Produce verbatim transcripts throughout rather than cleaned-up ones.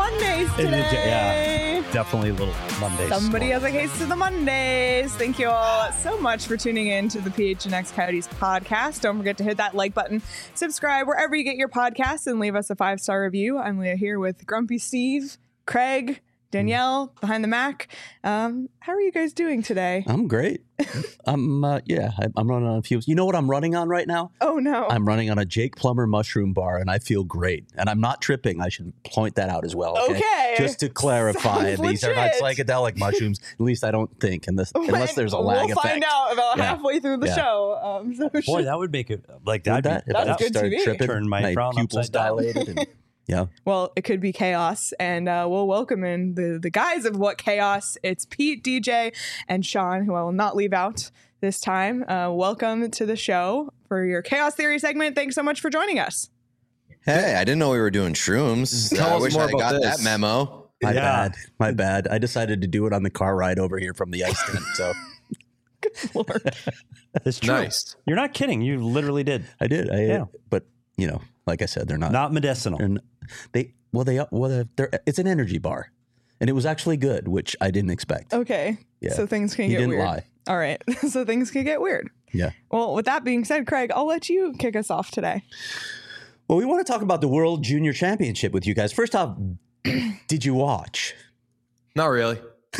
Mondays today. Yeah, definitely a little Mondays. Somebody has a case of the Mondays. Thank you all so much for tuning in to the P H N X Coyotes podcast. Don't forget to hit that like button, subscribe wherever you get your podcasts, and leave us a five-star review. I'm Leah here with Grumpy Steve, Craig, Danielle, behind the Mac. Um, how are you guys doing today? I'm great. I'm, uh, yeah, I, I'm running on fumes. You know what I'm running on right now? Oh, no. I'm running on a Jake Plummer mushroom bar, and I feel great. And I'm not tripping. I should point that out as well. Okay. Okay. Just to clarify, Sounds these are not legit. psychedelic mushrooms. At least I don't think, unless, unless there's a lag we'll effect. We'll find out about Yeah. halfway through the Yeah. show. Um, so Boy, should- that would make it like Would that'd that, be, if That's I good started T V. tripping, Turn my frown pupils upside down. dilated. And, yeah. Well, it could be chaos, and uh, we'll welcome in the, the guys of What Chaos. It's Pete, D J, and Sean, who I will not leave out this time. Uh, welcome to the show for your Chaos Theory segment. Thanks so much for joining us. Hey, I didn't know we were doing shrooms. Tell I us wish more I about got this. that memo. My Yeah. bad. My bad. I decided to do it on the car ride over here from the ice tent. So Lord. It's true. Nice. You're not kidding. You literally did. I did. I, Yeah. But, you know, like I said, they're not. Not medicinal. they're n- they well they well they're, it's an energy bar, and it was actually good, which I didn't expect. Okay. Yeah. So things can He get didn't weird. lie. All right. So things can get weird. Yeah. Well, with that being said, Craig, I'll let you kick us off today. Well, we want to talk about the World Junior Championship with you guys. First off, did you watch? Not really.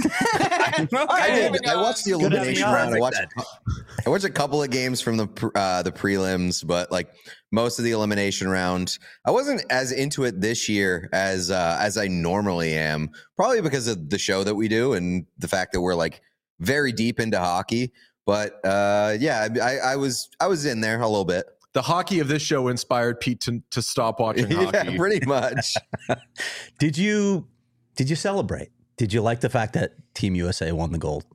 I Okay. did. I watched the Good elimination having round. you I on. watched. I watched a couple of games from the pr- uh, the prelims, but like most of the elimination round, I wasn't as into it this year as uh, as I normally am. Probably because of the show that we do and the fact that we're like very deep into hockey. But uh, yeah, I, I was I was in there a little bit. The hockey of this show inspired Pete to, to stop watching Yeah, hockey. pretty much. Did you did you celebrate? Did you like the fact that Team U S A won the gold?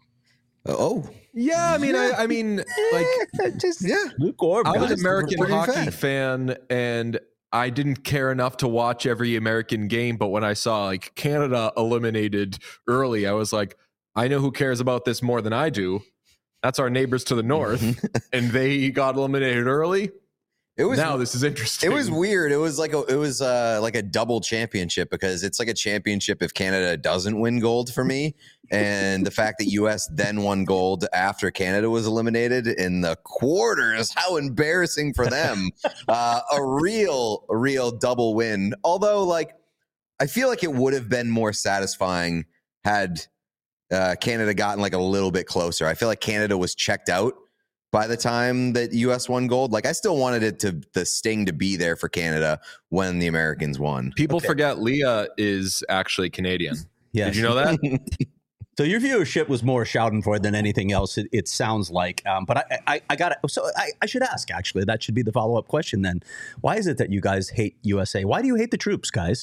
Oh, Yeah, I mean, I, I mean, like, just yeah. Lukewarm. I was guys. an American pretty hockey fed. fan, and I didn't care enough to watch every American game. But when I saw like Canada eliminated early, I was like, I know who cares about this more than I do. That's our neighbors to the north, and they got eliminated early. It was Now this is interesting. It was weird. It was like a it was uh, like a double championship because it's like a championship if Canada doesn't win gold for me, and the fact that U S then won gold after Canada was eliminated in the quarters. How embarrassing for them! uh, a real, a real double win. Although, like, I feel like it would have been more satisfying had uh, Canada gotten like a little bit closer. I feel like Canada was checked out by the time that U S won gold. Like, I still wanted it to the sting to be there for Canada when the Americans won. People forget Leah is actually Canadian. Yes. Did you know that? So your viewership was more Schadenfreude than anything else. It, it sounds like, um, but I, I, I got it. So I, I should ask. Actually, that should be the follow up question. Then, why is it that you guys hate U S A? Why do you hate the troops, guys?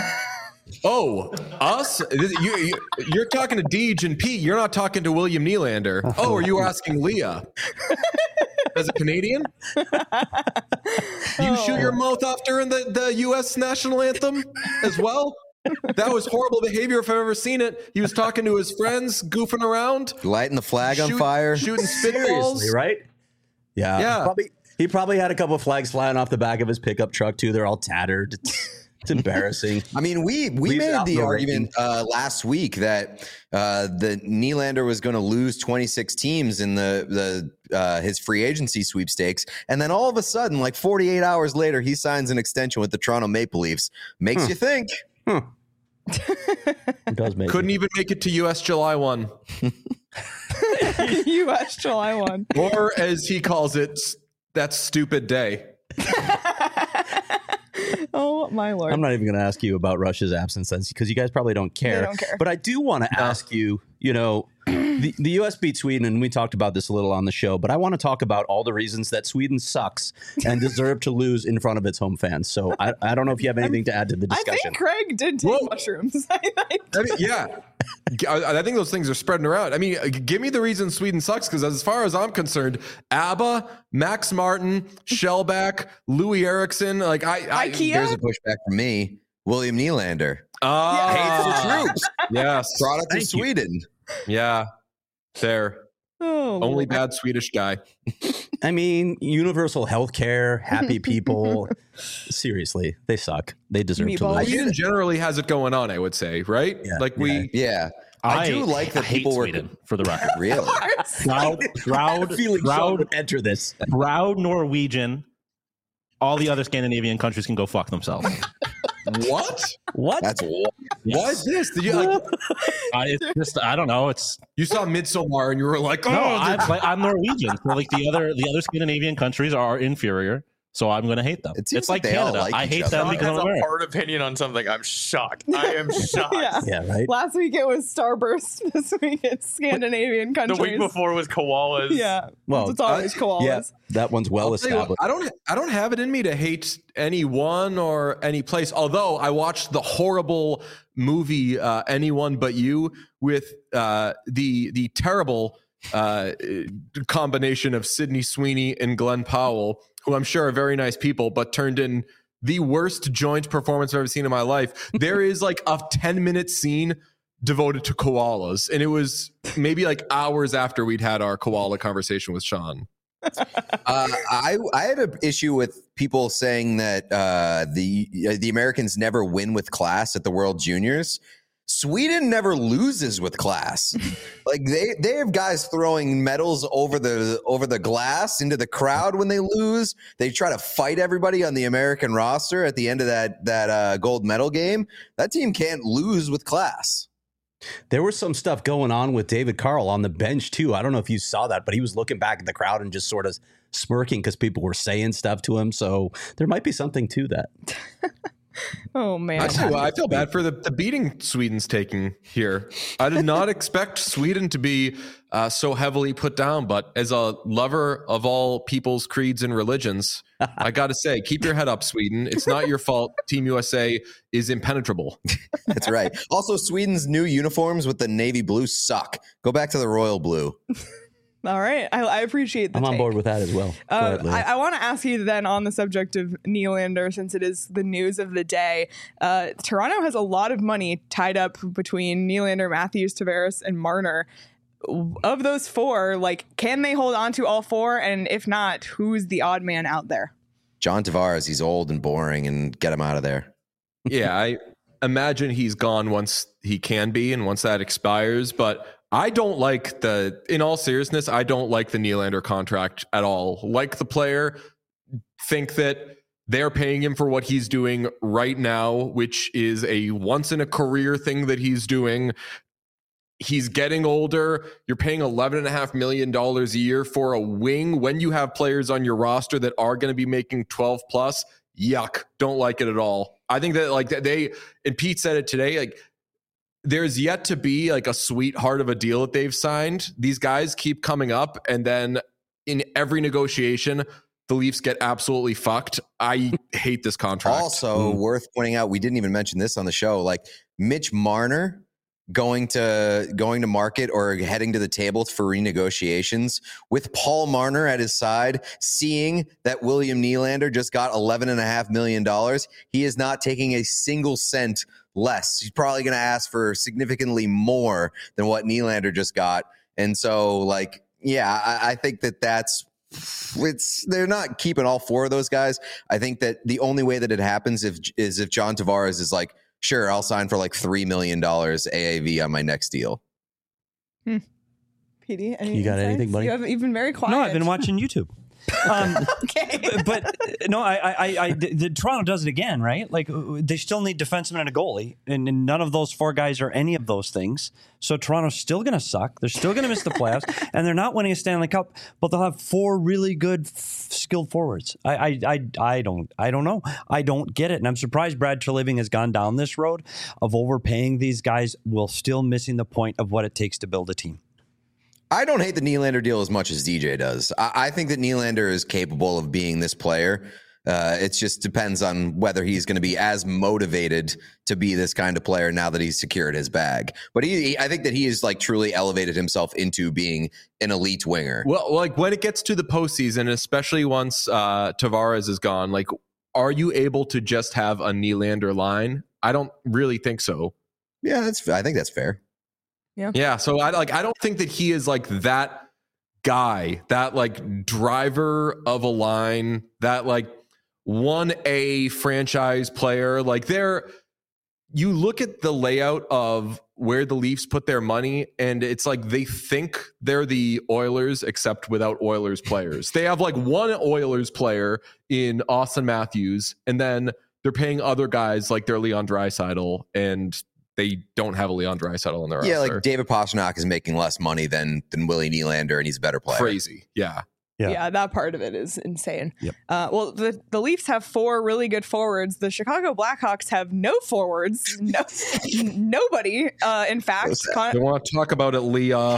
Oh, us? This- You, you, you're talking to Deej and Pete. You're not talking to William Nylander. Oh, are you asking Leah? As a Canadian? You shoot your mouth off during the, the U S national anthem as well? That was horrible behavior if I've ever seen it. He was talking to his friends, goofing around. Lighting the flag on shoot- fire. Shooting Seriously, spitballs. right? Yeah. Yeah. Probably, he probably had a couple of flags flying off the back of his pickup truck too. They're all tattered. It's, it's embarrassing. I mean, we we Leaves made out the no argument uh, last week that uh, the Nylander was going to lose twenty-six teams in the the uh, his free agency sweepstakes, and then all of a sudden, like forty-eight hours later, he signs an extension with the Toronto Maple Leafs. Makes Huh. you think. It does make Couldn't it. even make it to U S July first. U S July first. Or as he calls it, that stupid day. Oh, my Lord. I'm not even going to ask you about Russia's absence because you guys probably don't care. They don't care. But I do want to ask you, you know, the, the U S beat Sweden, and we talked about this a little on the show, but I want to talk about all the reasons that Sweden sucks and deserve to lose in front of its home fans. So I, I don't know if you have anything to add to the I discussion. think Craig did take Whoa. mushrooms. I I mean, yeah. I, I think those things are spreading around. I mean, give me the reason Sweden sucks, because as far as I'm concerned, ABBA, Max Martin, Shellback, Louis Eriksson, like I, I IKEA? Here's a pushback from me. William Nylander. Ah, Hates the troops. yes, Product Thank of you. Sweden. yeah, there. Oh, Only Lord. bad Swedish guy. I mean, universal health care, happy people. Seriously, they suck. They deserve to Meatballs. lose. Sweden generally has it going on, I would say, right? Yeah, like we, Yeah, I, do like that hate people were Sweden, for the record. really. Proud, proud, Feeling Sean proud, would enter this. proud Norwegian. All the other Scandinavian countries can go fuck themselves. what? What? That's what. What is this? Did you like? I, it's just I don't know. It's You saw Midsommar and you were like, oh, no. the- I'm, like, I'm Norwegian. So like the other the other Scandinavian countries are inferior. So I'm going to hate them. It seems It's like like they all Canada. like I each hate other. them Sean because has I'm a American. hard opinion on something. I'm shocked. I am shocked. Yeah. Yeah, right. Last week it was Starburst. This week it's Scandinavian The countries. week before was koalas. Yeah. Well, it's always koalas. Yeah, that one's well I'll tell you what, established. I don't. I don't have it in me to hate anyone or any place. Although I watched the horrible movie uh, "Anyone But You" with uh, the the terrible uh, combination of Sydney Sweeney and Glenn Powell, who I'm sure are very nice people, but turned in the worst joint performance I've ever seen in my life. There is like a ten minute scene devoted to koalas, and it was maybe like hours after we'd had our koala conversation with Sean. Uh, I I had an issue with people saying that uh, the the Americans never win with class at the World Juniors. Sweden never loses with class. Like they they have guys throwing medals over the over the glass into the crowd when they lose. They try to fight everybody on the American roster at the end of that that uh, gold medal game. That team can't lose with class. There was some stuff going on with David Carl on the bench too. I don't know if you saw that, but he was looking back at the crowd and just sort of smirking because people were saying stuff to him. So there might be something to that. Oh man. I tell you what, I feel bad for the, the beating Sweden's taking here. I did not expect Sweden to be uh, so heavily put down, but as a lover of all people's creeds and religions, I got to say, keep your head up, Sweden. It's not your fault. Team U S A is impenetrable. That's right. Also, Sweden's new uniforms with the navy blue suck. Go back to the royal blue. All right. I, I appreciate the I'm on take. board with that as well. Go Uh, ahead, Leah. I, I want to ask you then on the subject of Nylander, since it is the news of the day. Uh, Toronto has a lot of money tied up between Nylander, Matthews, Tavares, and Marner. Of those four, like, can they hold on to all four? And if not, who's the odd man out there? John Tavares, he's old and boring, and get him out of there. Yeah, I imagine he's gone once he can be and once that expires, but I don't like the, in all seriousness, I don't like the Nylander contract at all. Like the player, think that they're paying him for what he's doing right now, which is a once in a career thing that he's doing. He's getting older. You're paying eleven and a half million dollars a year for a wing when you have players on your roster that are going to be making twelve plus. Yuck. Don't like it at all. I think that like they, and Pete said it today, like, there's yet to be like a sweetheart of a deal that they've signed. These guys keep coming up, and then in every negotiation, the Leafs get absolutely fucked. I hate this contract. Also, worth pointing out, we didn't even mention this on the show. Like Mitch Marner going to going to market or heading to the table for renegotiations with Paul Marner at his side, seeing that William Nylander just got eleven and a half million dollars. He is not taking a single cent less. He's probably going to ask for significantly more than what Nylander just got. And so, like, yeah, I, I think that that's it's they're not keeping all four of those guys. I think that the only way that it happens if is if John Tavares is like, sure, I'll sign for like three million dollars A A V on my next deal. Hmm. P D, any You got insights? anything, buddy? You haven't, you've been very quiet. No, I've been watching YouTube. Um, Okay. but uh, no, I, I, I, the, the Toronto does it again, right? Like uh, they still need defensemen and a goalie, and, and none of those four guys are any of those things. So Toronto's still going to suck. They're still going to miss the playoffs, and they're not winning a Stanley Cup. But they'll have four really good, f- skilled forwards. I, I, I, I don't, I don't know. I don't get it, and I'm surprised Brad Treliving has gone down this road of overpaying these guys while still missing the point of what it takes to build a team. I don't hate the Nylander deal as much as D J does. I, I think that Nylander is capable of being this player. Uh, it just depends on whether he's going to be as motivated to be this kind of player now that he's secured his bag. But he, he I think that he has like truly elevated himself into being an elite winger. Well, like when it gets to the postseason, especially once uh, Tavares is gone, like, are you able to just have a Nylander line? I don't really think so. Yeah, that's. I think that's fair. Yeah, so I like. I don't think that he is like that guy, that like driver of a line, that like one A franchise player. Like they're, you look at the layout of where the Leafs put their money, and it's like they think they're the Oilers, except without Oilers players. They have like one Oilers player in Austin Matthews, and then they're paying other guys like they're Leon Draisaitl, and they don't have a Leon Draisaitl on their Yeah, roster. like David Pastrnak is making less money than than Willie Nylander, and he's a better player. Crazy. Yeah. Yeah. Yeah. that part of it is insane. Yep. Uh, well, the, the Leafs have four really good forwards. The Chicago Blackhawks have no forwards. No, nobody. Uh, in fact, Con- They want to talk about it, Leah.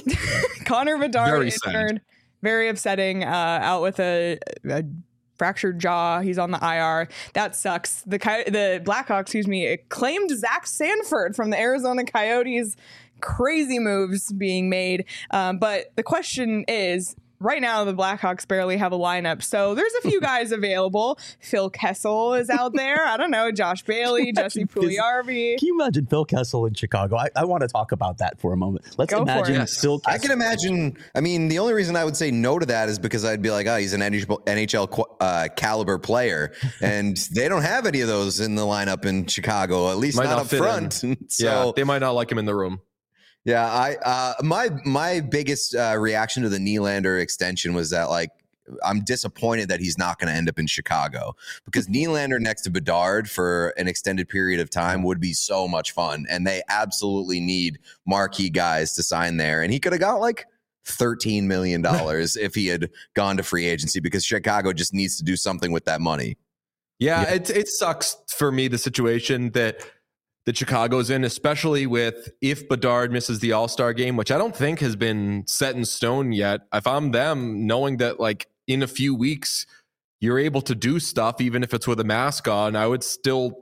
Connor Bedard Very injured. sad. Very upsetting. Uh, out with a, a fractured jaw. He's on the I R. That sucks. The Coy- the Blackhawks, excuse me, claimed Zach Sanford from the Arizona Coyotes. Crazy moves being made. Um, but the question is, right now, the Blackhawks barely have a lineup. So there's a few guys available. Phil Kessel is out there. I don't know. Josh Bailey, Jesse Puljujarvi. Can you imagine Phil Kessel in Chicago? I, I want to talk about that for a moment. Let's Go for imagine it. Yes. Phil Kessel. I can imagine. I mean, the only reason I would say no to that is because I'd be like, oh, he's an N H L uh, caliber player, and they don't have any of those in the lineup in Chicago, at least Might not, not up fit front. so Yeah. They might not like him in the room. yeah, I uh, my my biggest uh, reaction to the Nylander extension was that like I'm disappointed that he's not going to end up in Chicago, because Nylander next to Bedard for an extended period of time would be so much fun, and they absolutely need marquee guys to sign there, and he could have got like thirteen million dollars if he had gone to free agency, because Chicago just needs to do something with that money. Yeah, It, it sucks for me, the situation that that Chicago's in, especially with if Bedard misses the All-Star game, which I don't think has been set in stone yet. If I'm them, knowing that like in a few weeks you're able to do stuff, even if it's with a mask on, I would still,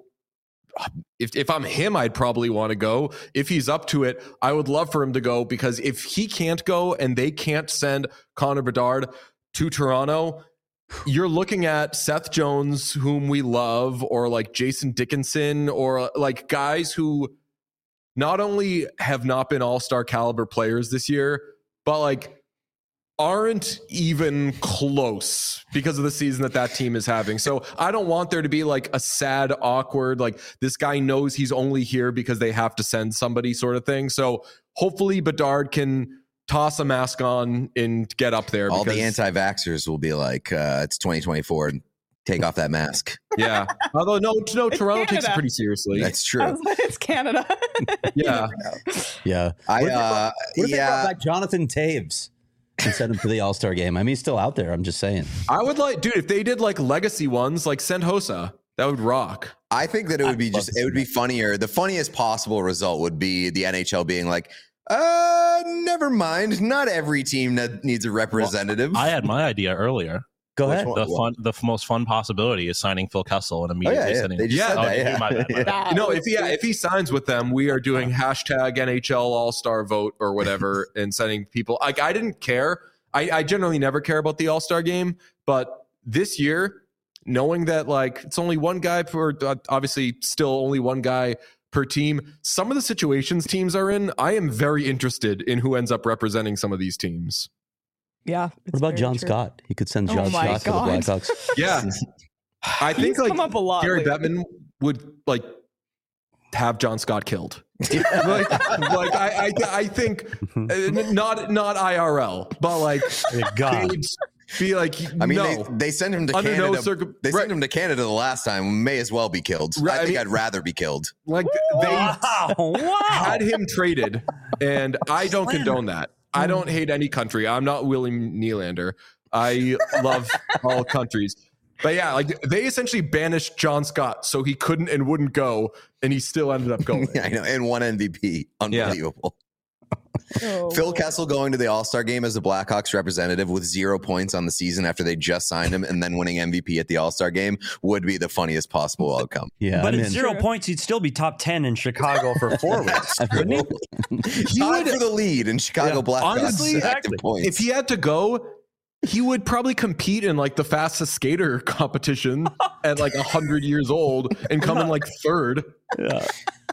if if I'm him, I'd probably want to go. If he's up to it, I would love for him to go, because if he can't go and they can't send Connor Bedard to Toronto, you're looking at Seth Jones, whom we love, or like Jason Dickinson, or like guys who not only have not been all-star caliber players this year, but like aren't even close because of the season that that team is having. So I don't want there to be like a sad, awkward, like this guy knows he's only here because they have to send somebody sort of thing. So hopefully Bedard can toss a mask on and get up there. All because, the anti-vaxxers will be like, uh, it's twenty twenty-four and take off that mask. yeah. Although no, no, Toronto takes it Canada. pretty seriously. That's I true. was like, it's Canada. Yeah. Yeah. I, What if they uh, brought- what if they yeah. brought back Jonathan Taves and sent him to the All-Star game? I mean, he's still out there. I'm just saying. I would like, dude, if they did like legacy ones, like send Hossa, that would rock. I think that it would be I'd love just, to it would see be funnier. The funniest possible result would be the N H L being like, uh, never mind. Not every team that needs a representative. I had my idea earlier. Go Which ahead. one? The fun, the f- most fun possibility is signing Phil Kessel and oh, immediately yeah, yeah. sending. They just Yeah. said Oh, that, yeah. my bad, my bad. That You know, was if he if he signs with them, we are doing hashtag N H L All Star vote or whatever, and sending people. Like I didn't care. I, I generally never care about the All Star game, but this year, knowing that like it's only one guy per, obviously still only one guy per team. Some of the situations teams are in, I am very interested in who ends up representing some of these teams. Yeah. What about John Scott? He could send Oh John my Scott God. to the Blackhawks. Yeah, I think He's like come up a lot Gary lately. Bettman would like have John Scott killed. like, like I, I, I think uh, not not I R L, but like God. they'd be like, I mean, no. they, they sent him to Under no Canada. circum- they right. sent him to Canada the last time. May as well be killed. Right, I I think mean- I'd rather be killed. like they Wow. Wow. had him traded, and I don't condone that. I don't hate any country. I'm not William Nylander. I love all countries. But yeah, like they essentially banished John Scott so he couldn't and wouldn't go, and he still ended up going. I know, and one M V P. Unbelievable. Oh. Phil Kessel going to the All-Star game as the Blackhawks representative with zero points on the season after they just signed him, and then winning M V P at the All-Star game would be the funniest possible outcome. Yeah, But I'm at in. zero True. points, he'd still be top ten in Chicago for forwards. Wouldn't he? Tied for the lead in Chicago Yeah. Blackhawks Honestly, active exactly. points. If he had to go, he would probably compete in like the fastest skater competition at like one hundred years old and come in like third. Yeah.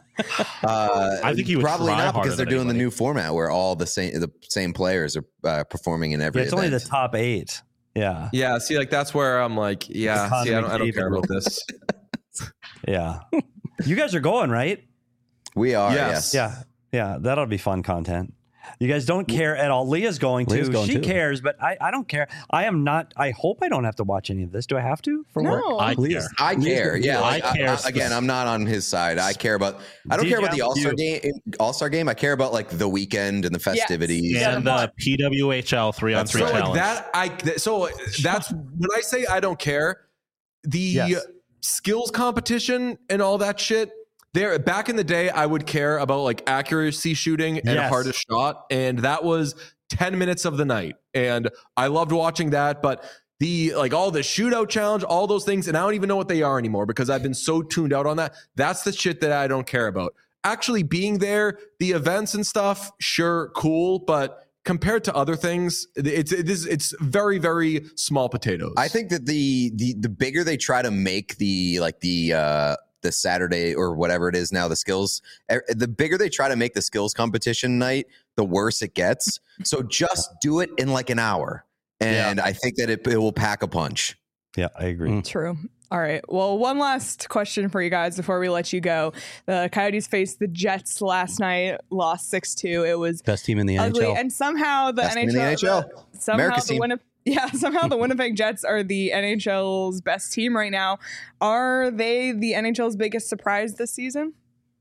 Uh, I think he would probably try not harder because they're than doing the anybody. new format where all the same the same players are uh, performing in every Yeah, it's only the event. top eight. Yeah. Yeah, see, like that's where I'm like, yeah, see, I don't, I don't care about this. Yeah. You guys are going, right? We are, Yes. yes. Yeah. Yeah. That'll be fun content. You guys don't care at all. Leah's going to. Leah's going she too. cares, but I, I don't care. I am not. I hope I don't have to watch any of this. Do I have to for work? No. I Leah's- care. I care. Yeah, I like, I care. I- again, I'm not on his side. I care about. I don't D J, care about the I'm All Star you. game. All Star game. I care about like the weekend and the festivities. Yeah. And the P W H L three on That's three So challenge. like that, I th- so that's when I say I don't care. The Yes. skills competition and all that shit. There, back in the day, I would care about like accuracy shooting and Yes. hardest shot, and that was ten minutes of the night, and I loved watching that. But the like all the shootout challenge, all those things, and I don't even know what they are anymore because I've been so tuned out on that. That's the shit that I don't care about. Actually being there, the events and stuff, sure, cool, but compared to other things, it's it is it's very very small potatoes. I think that the the the bigger they try to make the like the uh the Saturday or whatever it is now, the skills, er, the bigger they try to make the skills competition night, the worse it gets. So just do it in like an hour. And I think that it, it will pack a punch. Yeah, I agree. Mm. True. All right. Well, one last question for you guys before we let you go. The Coyotes faced the Jets last night, lost six two. It was Best team in the ugly. N H L. And somehow the Best team N H L, in the N H L. the- somehow America's the team. Winnipeg, yeah, somehow the Winnipeg Jets are the N H L's best team right now. Are they the N H L's biggest surprise this season?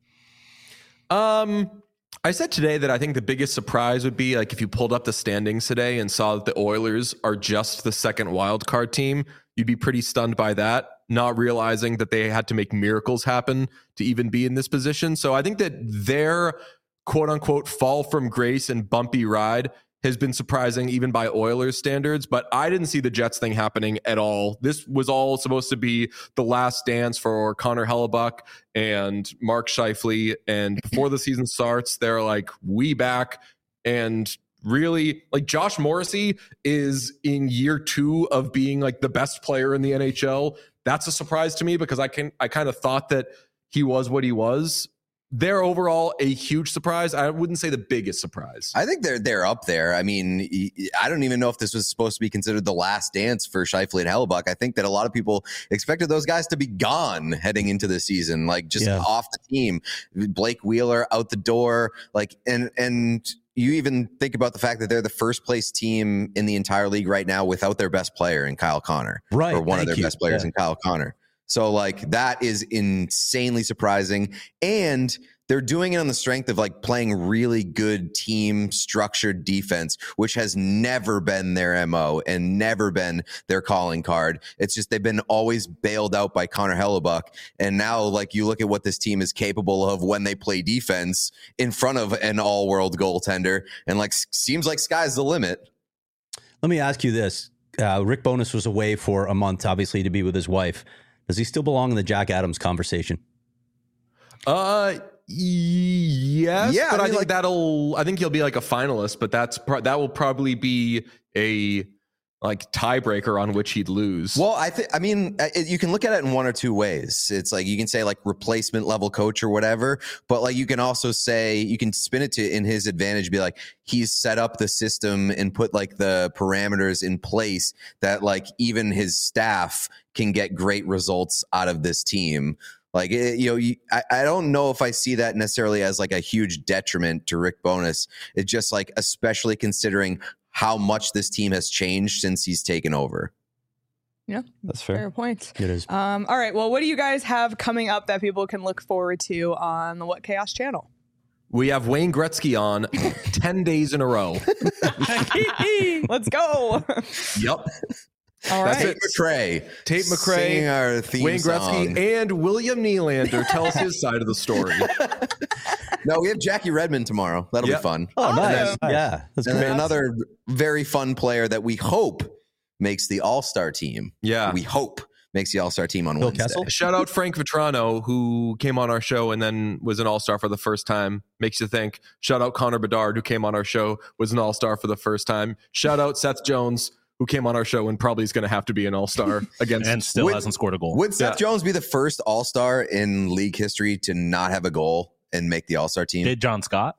Um, I said today that I think the biggest surprise would be like if you pulled up the standings today and saw that the Oilers are just the second wild card team, you'd be pretty stunned by that, not realizing that they had to make miracles happen to even be in this position. So I think that their quote unquote fall from grace and bumpy ride has been surprising even by Oilers standards, but I didn't see the Jets thing happening at all. This was all supposed to be the last dance for Connor Hellebuck and Mark Scheifele. And before the season starts, they're like, we back. And really, like Josh Morrissey is in year two of being like the best player in the N H L. That's a surprise to me because I can I kind of thought that he was what he was. They're overall a huge surprise. I wouldn't say the biggest surprise. I think they're they're up there. I mean, I don't even know if this was supposed to be considered the last dance for Scheifele and Hellebuck. I think that a lot of people expected those guys to be gone heading into the season, like just Yeah. off the team. Blake Wheeler out the door, like and and you even think about the fact that they're the first place team in the entire league right now without their best player in Kyle Connor, Right, or one of thank their you. best players Yeah. in Kyle Connor. So like that is insanely surprising. And they're doing it on the strength of like playing really good team structured defense, which has never been their M O and never been their calling card. It's just they've been always bailed out by Connor Hellebuck. And now like you look at what this team is capable of when they play defense in front of an all world goaltender, and like seems like sky's the limit. Let me ask you this. Uh, Rick Bowness was away for a month, obviously, to be with his wife. Does he still belong in the Jack Adams conversation? Uh, yes, Yeah, but I I, mean, think like- that'll. I think he'll be like a finalist, but that's pro- that will probably be a like tiebreaker on which he'd lose. Well, I think, I mean, uh, it, you can look at it in one or two ways. It's like you can say like replacement level coach or whatever, but like you can also say, you can spin it to in his advantage, be like, he's set up the system and put like the parameters in place that like even his staff can get great results out of this team. Like, it, you know, you, I, I don't know if I see that necessarily as like a huge detriment to Rick Bowness. It's just like, especially considering how much this team has changed since he's taken over. Yeah, That's fair. fair point. It is. Um, all right. Well, what do you guys have coming up that people can look forward to on the What Chaos channel? we have Wayne Gretzky on ten days in a row. Let's go. Yep. All That's right. it. McRae. Tate McRae, Singing our theme Wayne Gretzky, song. and William Nylander tells his side of the story. No, we have Jackie Redmond tomorrow. That'll Yep. be fun. Oh, nice. Awesome. Yeah, that's And great. then another very fun player that we hope makes the All-Star team. Yeah. We hope makes the All-Star team on Phil Wednesday. Kessel? Shout out Frank Vetrano, who came on our show and then was an all-star for the first time. Makes you think. Shout out Connor Bedard, who came on our show, was an all-star for the first time. Shout out Seth Jones, who came on our show and probably is going to have to be an all-star against. and still Would- hasn't scored a goal. Would Seth Yeah. Jones be the first All-Star in league history to not have a goal and make the All Star team. Did John Scott?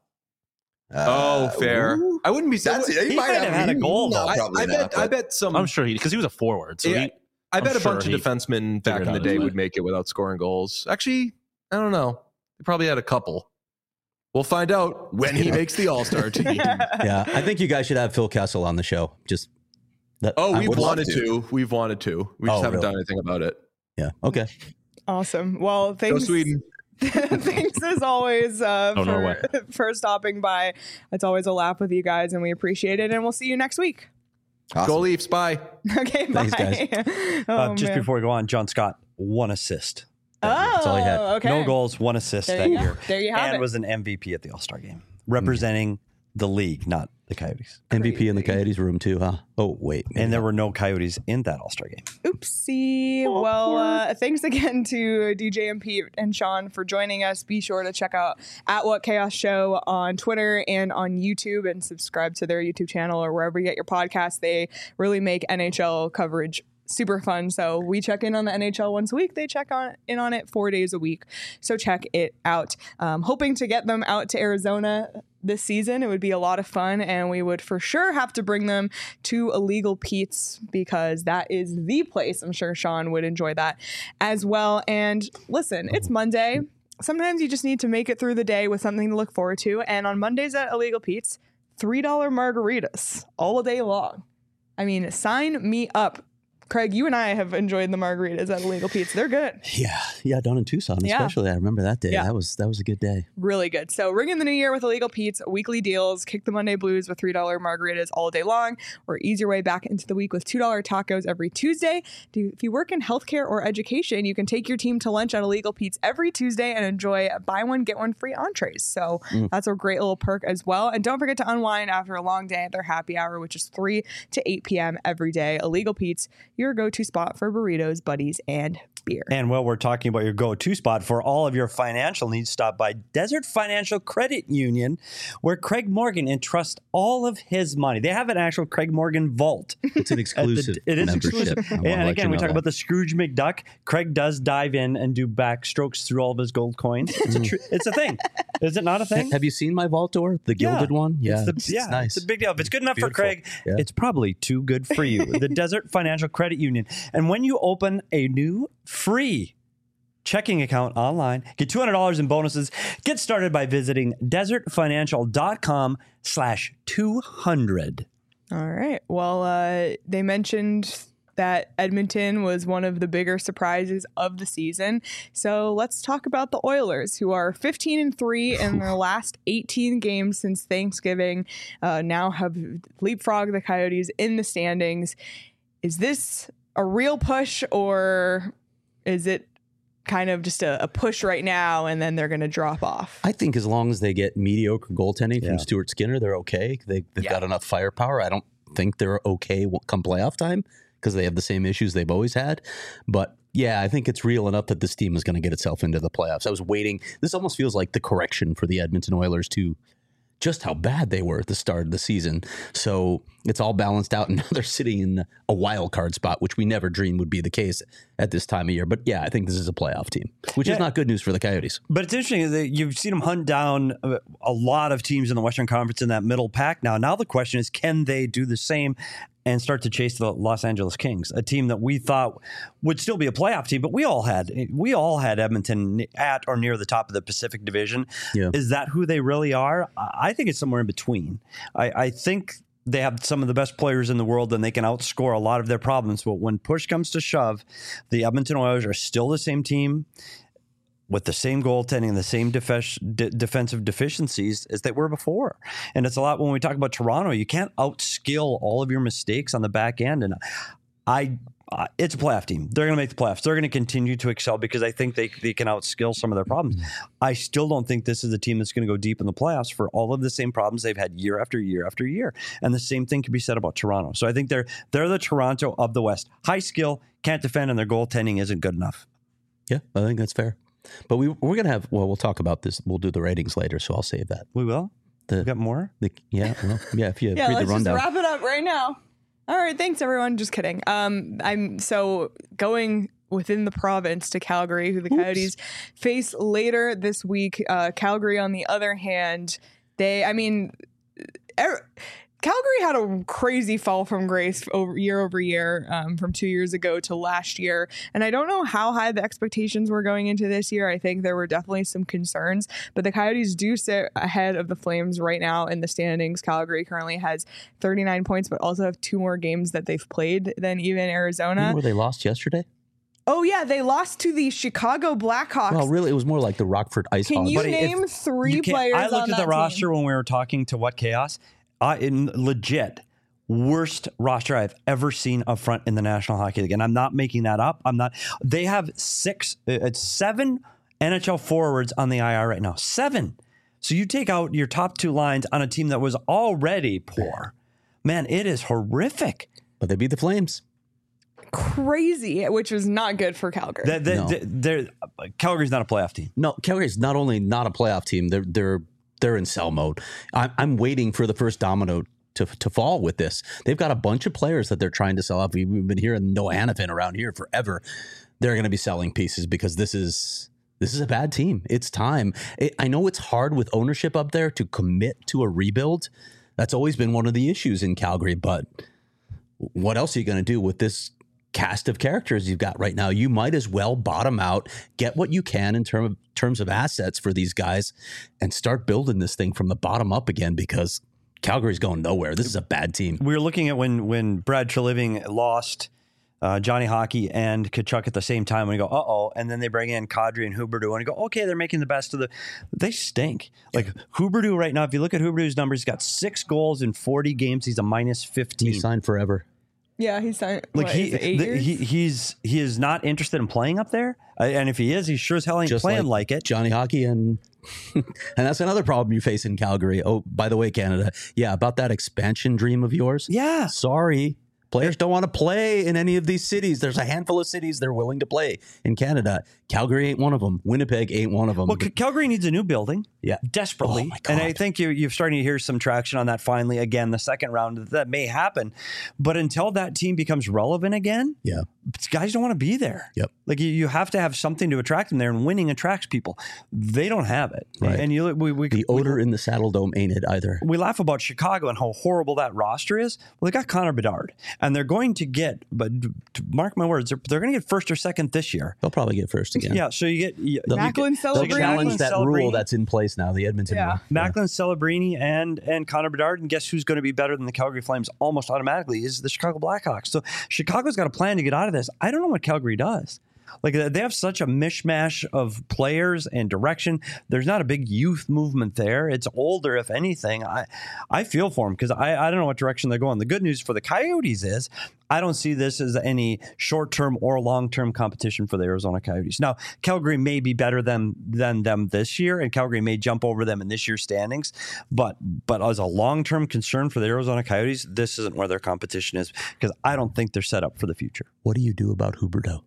Uh, oh, fair. ooh. I wouldn't be. That's He it. He might have had a goal, no, though. I, probably I not, bet. I but- bet some. I'm sure he because he was a forward. So Yeah, he, I I'm bet a sure bunch he of defensemen back figured in the out day his way. would make it without scoring goals. Actually, I don't know. They probably had a couple. We'll find out when he makes the All Star team. Yeah, I think you guys should have Phil Kessel on the show. Just that, Oh, I we've would love wanted to. Wewe've wanted to. We just Oh, haven't really? done anything about it. Yeah. Okay. Awesome. Well, Go thanks. Sweden. Thanks as always uh, Oh, for, Norway. for stopping by. It's always a laugh with you guys, and we appreciate it. And we'll see you next week. Awesome. Go Leafs. Bye. Okay, bye. Thanks, guys. oh, uh, just man. before we go on, John Scott, one assist. Oh, That's all he had. okay. No goals, one assist There that you go. year. There you have and it. was an M V P at the All Star game, representing the league, not the Coyotes. M V P in the Coyotes room too, huh? Oh wait, maybe And there not. were no Coyotes in that All Star game. Oopsie. Well, uh, thanks again to D J and Pete and Sean for joining us. Be sure to check out at What Chaos Show on Twitter and on YouTube and subscribe to their YouTube channel or wherever you get your podcasts. They really make N H L coverage super fun. So we check in on the N H L once a week. They check on in on it four days a week. So check it out. Um, hoping to get them out to Arizona this season. It would be a lot of fun, and we would for sure have to bring them to Illegal Pete's because that is the place. I'm sure Sean would enjoy that as well. And listen, it's Monday. Sometimes you just need to make it through the day with something to look forward to. And on Mondays at Illegal Pete's, three dollar margaritas all day long. I mean, sign me up. Craig, you and I have enjoyed the margaritas at Illegal Pete's. They're good. Yeah, yeah, down in Tucson, Yeah. especially. I remember that day. Yeah. That was that was a good day. Really good. So ring in the new year with Illegal Pete's weekly deals. Kick the Monday blues with three dollar margaritas all day long, or ease your way back into the week with two dollar tacos every Tuesday. Do- If you work in healthcare or education, you can take your team to lunch at Illegal Pete's every Tuesday and enjoy buy one, get one free entrees. So that's a great little perk as well. And don't forget to unwind after a long day at their happy hour, which is three to eight p.m. every day. Illegal Pete's, your go-to spot for burritos, buddies, and beer. And while we're talking about your go-to spot for all of your financial needs, stop by Desert Financial Credit Union, where Craig Morgan entrusts all of his money. They have an actual Craig Morgan vault. It's an exclusive it is membership. exclusive. I wanna And let again, you we know talk that. about the Scrooge McDuck. Craig does dive in and do backstrokes through all of his gold coins. It's a, tr- it's a thing. Is it not a thing? Have you seen my vault door, the Yeah. gilded one? Yeah, It's, the, it's, yeah, nice. it's a big deal. If it's good enough for Beautiful. Craig, Yeah. it's probably too good for you. The Desert Financial Credit Union. And when you open a new free checking account online, get two hundred dollars in bonuses. Get started by visiting desertfinancial.com slash 200. All right. Well, uh, they mentioned that Edmonton was one of the bigger surprises of the season. So let's talk about the Oilers, who are fifteen and three in their last eighteen games since Thanksgiving. Uh, now have leapfrogged the Coyotes in the standings. Is this a real push, or is it kind of just a, a push right now and then they're going to drop off? I think as long as they get mediocre goaltending Yeah. from Stuart Skinner, they're okay. They, they've Yeah. got enough firepower. I don't think they're okay come playoff time because they have the same issues they've always had. But yeah, I think it's real enough that this team is going to get itself into the playoffs. I was waiting. This almost feels like the correction for the Edmonton Oilers to just how bad they were at the start of the season. So it's all balanced out, and now they're sitting in a wild card spot, which we never dreamed would be the case at this time of year. But yeah, I think this is a playoff team, which Yeah. is not good news for the Coyotes. But it's interesting that you've seen them hunt down a a lot of teams in the Western Conference in that middle pack now. Now the question is, can they do the same and start to chase the Los Angeles Kings, a team that we thought would still be a playoff team, but we all had we all had Edmonton at or near the top of the Pacific Division. Yeah. Is that who they really are? I think it's somewhere in between. I, I think they have some of the best players in the world and they can outscore a lot of their problems. But when push comes to shove, the Edmonton Oilers are still the same team with the same goaltending and the same def- de- defensive deficiencies as they were before. And it's a lot when we talk about Toronto, you can't outskill all of your mistakes on the back end. And I, uh, it's a playoff team. They're going to make the playoffs. They're going to continue to excel because I think they, they can outskill some of their problems. I still don't think this is a team that's going to go deep in the playoffs for all of the same problems they've had year after year after year. And the same thing can be said about Toronto. So I think they're, they're the Toronto of the West. High skill, can't defend, and their goaltending isn't good enough. Yeah, I think that's fair. But we, we're going to have, well, we'll talk about this. We'll do the ratings later, so I'll save that. We will? The, We got more? the yeah, well, yeah, if you Yeah, read let's the rundown. just wrap it up right now. All right, thanks everyone. Just kidding. Um, I'm so going within the province to Calgary, who the Coyotes face later this week. Uh, Calgary, on the other hand, they, I mean, er, Calgary had a crazy fall from grace over year over year, um, from two years ago to last year. And I don't know how high the expectations were going into this year. I think there were definitely some concerns, but the Coyotes do sit ahead of the Flames right now in the standings. Calgary currently has thirty-nine points, but also have two more games that they've played than even Arizona. Where they lost yesterday? Oh, yeah. They lost to the Chicago Blackhawks. Well, really, it was more like the Rockford Ice Can Hogs. you Buddy, name if three you can't- players I looked on at that the team? roster when we were talking to What Chaos. I in legit worst roster I've ever seen up front in the National Hockey League, and I'm not making that up. I'm not. They have six, uh, seven N H L forwards on the I R right now. Seven. So you take out your top two lines on a team that was already poor. Man, it is horrific. But they beat the Flames. Crazy, which was not good for Calgary. That No. they're, Calgary's not a playoff team. No, Calgary's not only not a playoff team, they're they're they're in sell mode. I'm, I'm waiting for the first domino to to fall with this. They've got a bunch of players that they're trying to sell off. We've been hearing Noah Hanifin around here forever. They're going to be selling pieces because this is this is a bad team. It's time. It, I know it's hard with ownership up there to commit to a rebuild. That's always been one of the issues in Calgary. But what else are you going to do with this cast of characters you've got right now? You might as well bottom out, get what you can in term of, terms of assets for these guys, and start building this thing from the bottom up again, because Calgary's going nowhere. This is a bad team. We were looking at when when Brad Treliving lost uh, Johnny Hockey and Kachuk at the same time, and we go, uh oh, and then they bring in Kadri and Huberdeau, and you go, okay, they're making the best of the. They stink. Like Huberdeau right now, if you look at Huberdeau's numbers, he's got six goals in forty games. He's a minus fifteen. He signed forever. Yeah, he's signed. Like what, he, is it eight the, years? he, he's he is not interested in playing up there, uh, and if he is, he sure as hell ain't Just playing like, it. Johnny Hockey and and that's another problem you face in Calgary. Oh, by the way, Canada, yeah, about that expansion dream of yours. Yeah, Sorry. Players don't want to play in any of these cities. There's a handful of cities they're willing to play in Canada. Calgary ain't one of them. Winnipeg ain't one of them. well, C- Calgary needs a new building. Yeah. Desperately. Oh, my And I God. think you're, you're starting to hear some traction on that finally again, the second round. That may happen. But until that team becomes relevant again, Yeah. guys don't want to be there. Yep. Like you, you have to have something to attract them there, and winning attracts people. They don't have it. Right. And you we, we, The odor in the Saddle Dome ain't it either. we laugh about Chicago and how horrible that roster is. Well, they got Connor Bedard, and they're going to get, but to mark my words, they're, they're going to get first or second this year. They'll probably get first again. Yeah. So you get you, They'll, Macklin they'll Celebrini. challenge that Celebrini. rule that's in place now, the Edmonton Yeah. rule. Macklin, Celebrini, and and Connor Bedard, and guess who's going to be better than the Calgary Flames almost automatically is the Chicago Blackhawks. So Chicago's got a plan to get out of this. I don't know what Calgary does. Like they have such a mishmash of players and direction. There's not a big youth movement there. It's older, if anything. I I feel for them because I, I don't know what direction they're going. The good news for the Coyotes is I don't see this as any short-term or long-term competition for the Arizona Coyotes. Now, Calgary may be better than than them this year, and Calgary may jump over them in this year's standings. But but as a long-term concern for the Arizona Coyotes, this isn't where their competition is because I don't think they're set up for the future. What do you do about Huberdeau?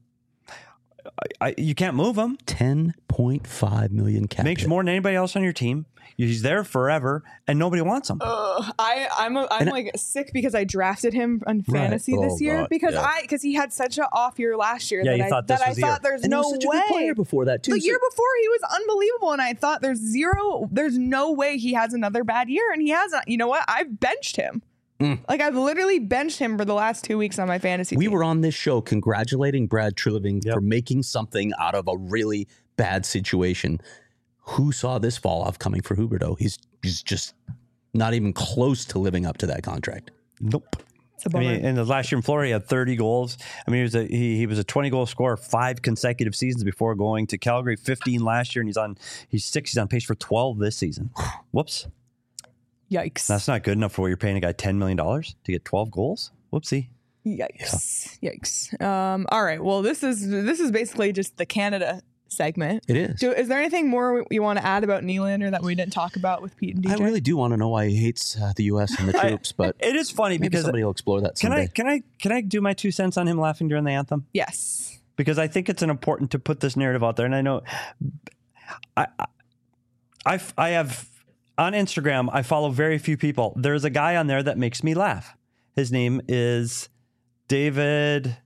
I, I, you can't move them. ten point five million cap Makes hit. more than anybody else on your team. He's there forever, and nobody wants him. Ugh, I I'm a, I'm And I- like sick because I drafted him on Right. fantasy this Oh, year God. because Yeah. I because he had such an off year last year Yeah, that you I thought that this I was the year. thought there's And no he was such way. a good player before that too. The So- year before he was unbelievable, and I thought there's zero, there's no way he has another bad year, and he hasn't. You know what? I've benched him. Mm. Like I've literally benched him for the last two weeks on my fantasy. We team. were on this show congratulating Brad Treliving Yep. for making something out of a really bad situation. Who saw this fall off coming for Huberdeau? He's he's just not even close to living up to that contract. Nope. It's a I bummer. mean, in the last year in Florida, he had thirty goals. I mean, he was a he, he was a twenty goal scorer five consecutive seasons before going to Calgary. fifteen last year, and he's on he's six. He's on pace for twelve this season. Whoops, Yikes! that's not good enough for what you're paying a guy ten million dollars to get twelve goals. Whoopsie. Yikes! Yikes! Um. All right. Well, this is this is basically just the Canada segment. It is. So, is there anything more you want to add about Nylander that we didn't talk about with Pete and D J? I really do want to know why he hates uh, the U S and the I- troops, but It is funny maybe because somebody will explore that can someday. I can I can I do my two cents on him laughing during the anthem? Yes. Because I think it's an important to put this narrative out there. And I know I, I, I, I have on Instagram, I follow very few people. There's a guy on there that makes me laugh. His name is David.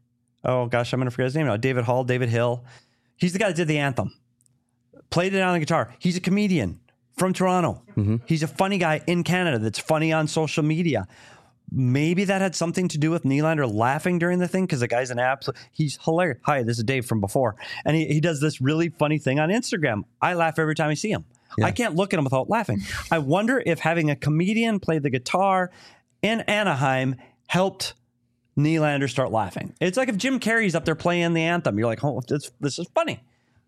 oh gosh, I'm going to forget his name now. David Hall, David Hill. He's the guy that did the anthem. Played it on the guitar. He's a comedian from Toronto. Mm-hmm. He's a funny guy in Canada that's funny on social media. Maybe that had something to do with Nylander laughing during the thing because the guy's an absolute, he's hilarious. Hi, this is Dave from before. And he, he does this really funny thing on Instagram. I laugh every time I see him. Yeah. I can't look at him without laughing. I wonder if having a comedian play the guitar in Anaheim helped Nylander start laughing. It's like if Jim Carrey's up there playing the anthem. You're like, oh, this, this is funny.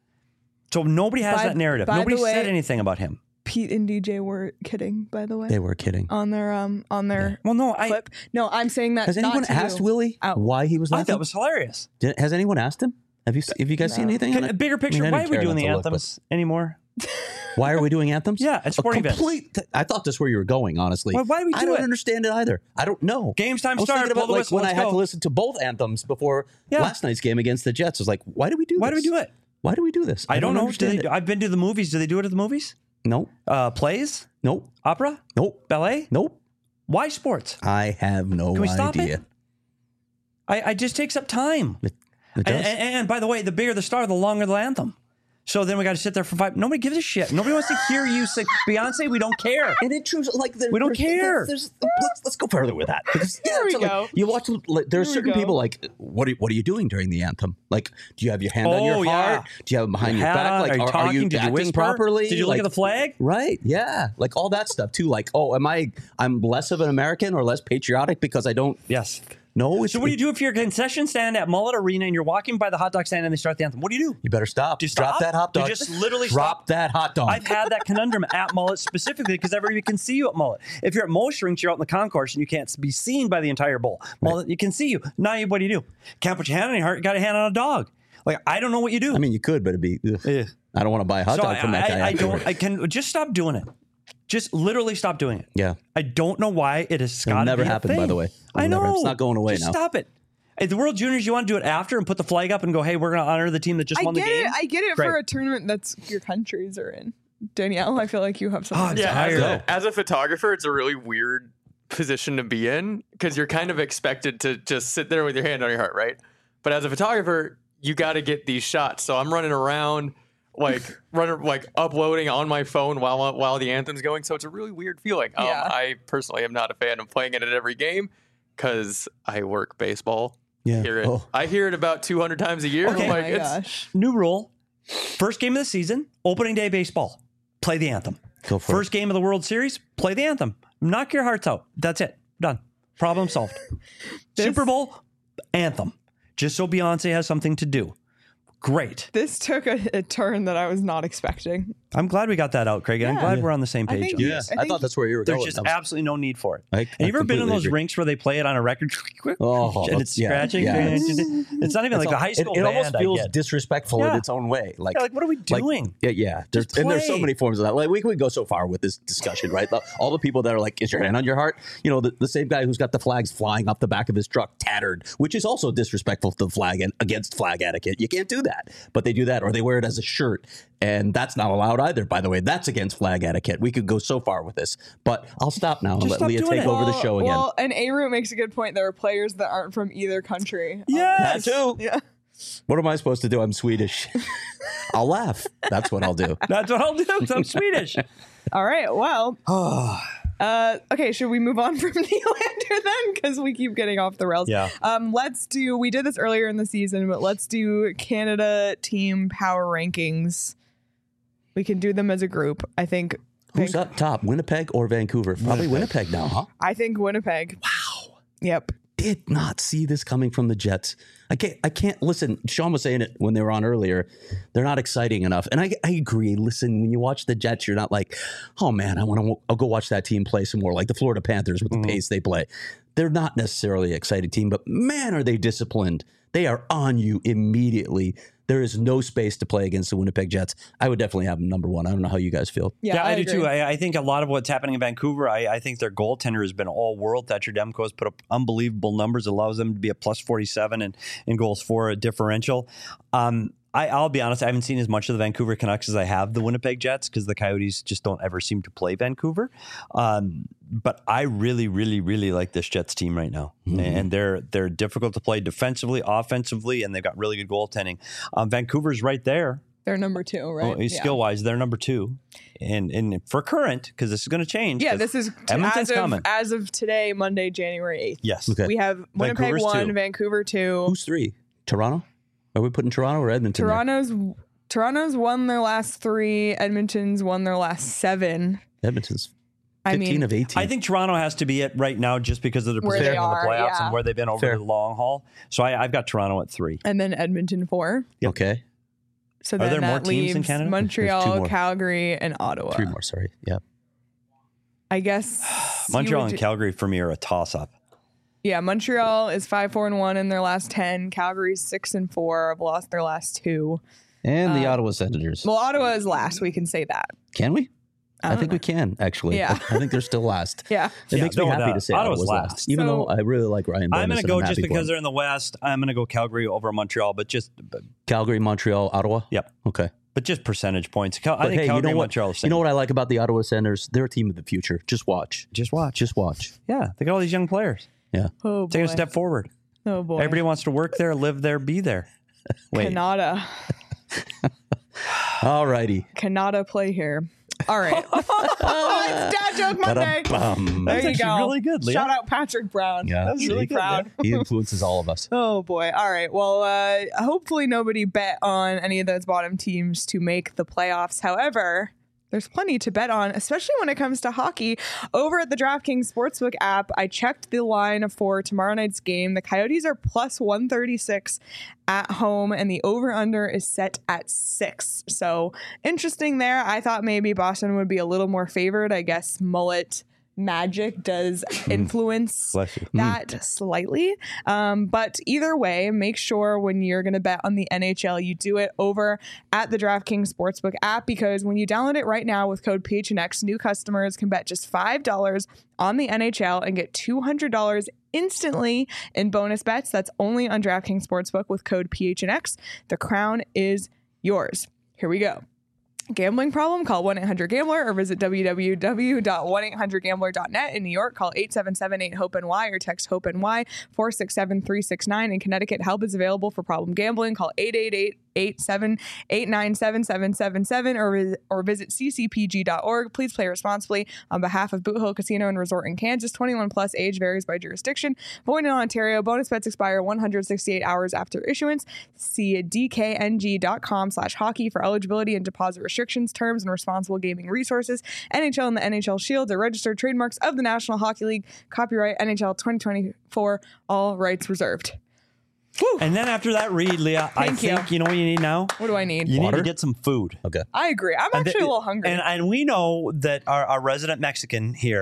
So nobody has by, that narrative. Nobody way, said anything about him. Pete and D J were kidding, by the way. They were kidding on their um on their yeah. well, no, clip. I no, I'm saying that. Has anyone asked you. Willie Out. why he was laughing? I thought it was hilarious. Did, has anyone asked him? Have you have you guys no. seen anything? Can, a bigger picture. I mean, why are we doing the anthems look, anymore? Why are we doing anthems? Yeah, it's sporting complete, events. I thought that's where you were going, honestly. Why, why do we do I don't it? understand it either. I don't know. Games time started. About, like, when I had go. to listen to both anthems before yeah. last night's game against the Jets. I was like, why do we do why this? Why do we do it? Why do we do this? I, I don't, don't know. Understand do they, I've been to the movies. Do they do it at the movies? No. Uh, plays? Nope. Opera? Nope. Ballet? Nope. Why sports? I have no Can we idea. Stop it? I, I just takes up time. It, it does. And, and, and by the way, the bigger the star, the longer the anthem. So then we got to sit there for five. Nobody gives a shit. Nobody wants to hear you say Beyonce. We don't care. And it truly, like, we don't care. There's, there's, let's let's go further with that. Because, Here yeah, we so, go. Like, you watch. Like, there are Here certain people like, what are what are you doing during the anthem? Like, do you have your hand oh, on your yeah. heart? Do you have it behind your your back? On? Like, are you are, talking? are you Did acting you whisper? properly? Did you look like, at the flag? Right. Yeah. Like all that stuff too. Like, oh, am I? I'm less of an American or less patriotic because I don't. Yes. No. So what do you do if you're a concession stand at Mullet Arena and you're walking by the hot dog stand and they start the anthem? What do you do? You better stop. Do you Drop stop? that hot dog. You just literally drop stop. that hot dog. I've had that conundrum at Mullet specifically because everybody can see you at Mullet. If you're at most rinks, you're out in the concourse and you can't be seen by the entire bowl. Mullet, right. You can see you. Now, you, what do you do? Can't put your hand on your heart. You got a hand on a dog. Like, I don't know what you do. I mean, you could, but it'd be. Ugh. I don't want to buy a hot so dog I, from that guy. I, I don't. I can just stop doing it. Just literally stop doing it. Yeah. I don't know why it has got to never be happened. A thing. By the way, It'll I know never, it's not going away just now. Stop it. At the World Juniors, you want to do it after and put the flag up and go, hey, we're going to honor the team that just I won the get game? It. I get it Great. for a tournament that's your countries are in. Danielle, I feel like you have something. Oh, to Yeah, say. as a, as a photographer, it's a really weird position to be in because you're kind of expected to just sit there with your hand on your heart, right? But as a photographer, you got to get these shots. So I'm running around, like running, like uploading on my phone while while the anthem's going. So it's a really weird feeling. Um, Yeah. I personally am not a fan of playing it at every game because I work baseball. Yeah. Hear it. Oh. I hear it about two hundred times a year. Okay. Oh Like, my it's, gosh. New rule. First game of the season, opening day baseball. Play the anthem. Go for First it. game of the World Series, play the anthem. Knock your hearts out. That's it. Done. Problem solved. This- Super Bowl, anthem. Just so Beyonce has something to do. Great. This took a, a turn that I was not expecting. I'm glad we got that out, Craig. And I'm Yeah. glad we're on the same I page. think on you- Yeah, this. I I, think thought that's where you were There's going. just That was- absolutely no need for it. I- I Have you ever been in completely those agree. rinks where they play it on a record Oh, and it's yeah, scratching? yeah. It's not even like It's a all- high school It, it band. almost I feels get. disrespectful Yeah. in its own way. Like, Yeah, like, what are we like- doing? yeah, yeah. There's, Just and there's so play. many forms of that. Like we could go so far with this discussion, right? The- All the people that are like, "Is your hand on your heart?" You know, the, the same guy who's got the flags flying off the back of his truck, tattered, which is also disrespectful to the flag and against flag etiquette. You can't do that, but they do that, or they wear it as a shirt, and that's not allowed either. By the way, that's against flag etiquette. We could go so far with this, but I'll stop now and Just let stop Leah doing take it. over the Well- show again. Well, and A-Root makes a good point. There are players that aren't from either country. Um, Yes. That too. Yeah. What am I supposed to do? I'm Swedish. I'll laugh. That's what I'll do. That's what I'll do. I'm Swedish. All right. Well. Uh, okay, should we move on from Nylander then? Because we keep getting off the rails. Yeah. Um, let's do, we did this earlier in the season, but let's do Canada team power rankings. We can do them as a group. I think. Who's Van- up top, Winnipeg or Vancouver? Probably Winnipeg now, huh? I think Winnipeg. Wow. Yep. Did not see this coming from the Jets. I can't. I can't listen. Sean was saying it when they were on earlier. They're not exciting enough, and I, I agree. Listen, when you watch the Jets, you're not like, oh man, I want to. I'll go watch that team play some more, like the Florida Panthers with the Mm-hmm. pace they play. They're not necessarily an exciting team, but man, are they disciplined. They are on you immediately. There is no space to play against the Winnipeg Jets. I would definitely have them number one. I don't know how you guys feel. Yeah, Yeah, I, do agree. too. I, I think a lot of what's happening in Vancouver, I, I think their goaltender has been all world. Thatcher Demko has put up unbelievable numbers, allows them to be a plus forty-seven and in goals for a differential. Um, I, I'll be honest, I haven't seen as much of the Vancouver Canucks as I have the Winnipeg Jets because the Coyotes just don't ever seem to play Vancouver. Um, but I really, really, really like this Jets team right now. Mm-hmm. And they're they're difficult to play defensively, offensively, and they've got really good goaltending. Um, Vancouver's right there. They're number two, right? Oh, skill-wise, they're number two. And and for current, because this is going to change. Yeah, this is to, Edmonton's as, of, coming. as of today, Monday, January eighth. Yes. Okay. We have Winnipeg Vancouver's one, two. Vancouver two. Who's three? Toronto? Are we putting Toronto or Edmonton there? Toronto's Toronto's won their last three. Edmonton's won their last seven. Edmonton's I fifteen mean, of eighteen. I think Toronto has to be it right now just because of the Where position they in the are, playoffs yeah. and where they've been over Fair. the long haul. So I, I've got Toronto at three. And then Edmonton four. Okay. So Are then there that more teams leaves in Canada? There's two Montreal, more. Calgary, and Ottawa. Three more, sorry. Yeah. I guess you Montreal would and do- Calgary for me are a toss-up. Yeah, Montreal is five four and one in their last ten. Calgary's six and four. Have lost their last two. And the Ottawa Senators. Well, Ottawa is last. We can say that. Can we? I, I think don't we can, actually. Yeah. I, I think they're still last. Yeah. It Yeah, makes me no happy doubt. to say Ottawa's Ottawa's last. last. Even So- though I really like Ryan Bonus. I'm going to and go happy just for because him. they're in the West. I'm going to go Calgary over Montreal, but just but, Calgary, Montreal, Ottawa? Yep. Okay. but just percentage points. Cal- I But think hey, Calgary you know and what? Montreal are the same. You know what I like about the Ottawa Senators? They're a team of the future. Just watch. Just watch. Just watch. Yeah, they got all these young players. Yeah. Oh boy. Taking a step forward. Oh boy. Everybody wants to work there, live there, be there. Wait. Canada. All righty. Canada play here. All right. It's Dad Joke Monday. Ba-dum-bum. There That's you actually go. really good, Leah. Shout out Patrick Brown. Yeah, I was see? really proud. He influences all of us. Oh boy. All right. Well, uh, hopefully nobody bet on any of those bottom teams to make the playoffs. However, there's plenty to bet on, especially when it comes to hockey. Over at the DraftKings Sportsbook app, I checked the line for tomorrow night's game. The Coyotes are plus one thirty-six at home, and the over-under is set at six. So interesting there. I thought maybe Boston would be a little more favored. I guess Mullet magic does influence Bless you. that slightly. Um, but either way, make sure when you're going to bet on the N H L, you do it over at the DraftKings Sportsbook app, because when you download it right now with code P H N X, new customers can bet just five dollars on the N H L and get two hundred dollars instantly in bonus bets. That's only on DraftKings Sportsbook with code P H N X. The crown is yours. Here we go. Gambling problem? Call one eight hundred gambler or visit w w w dot one eight hundred gambler dot net. In New York, call eight seven seven eight hope N Y or text HOPE-NY four six seven three six nine. In Connecticut, help is available for problem gambling. Call eight eight eight eight seven eight nine seven seven seven seven or, or visit c c p g dot org. Please play responsibly. On behalf of Boot Hill Casino and Resort in Kansas, twenty-one plus, age varies by jurisdiction. Void in Ontario. Bonus bets expire one hundred sixty-eight hours after issuance. See d k n g dot com slash hockey for eligibility and deposit restrictions, terms, and responsible gaming resources. N H L and the N H L Shield are registered trademarks of the National Hockey League. Copyright N H L twenty twenty-four. All rights reserved. Whew. And then after that read, Leah, I Thank you. think you know what you need now? What do I need? You Water? need to get some food. Okay. I agree. I'm And actually the- a little hungry. And, and we know that our, our resident Mexican here,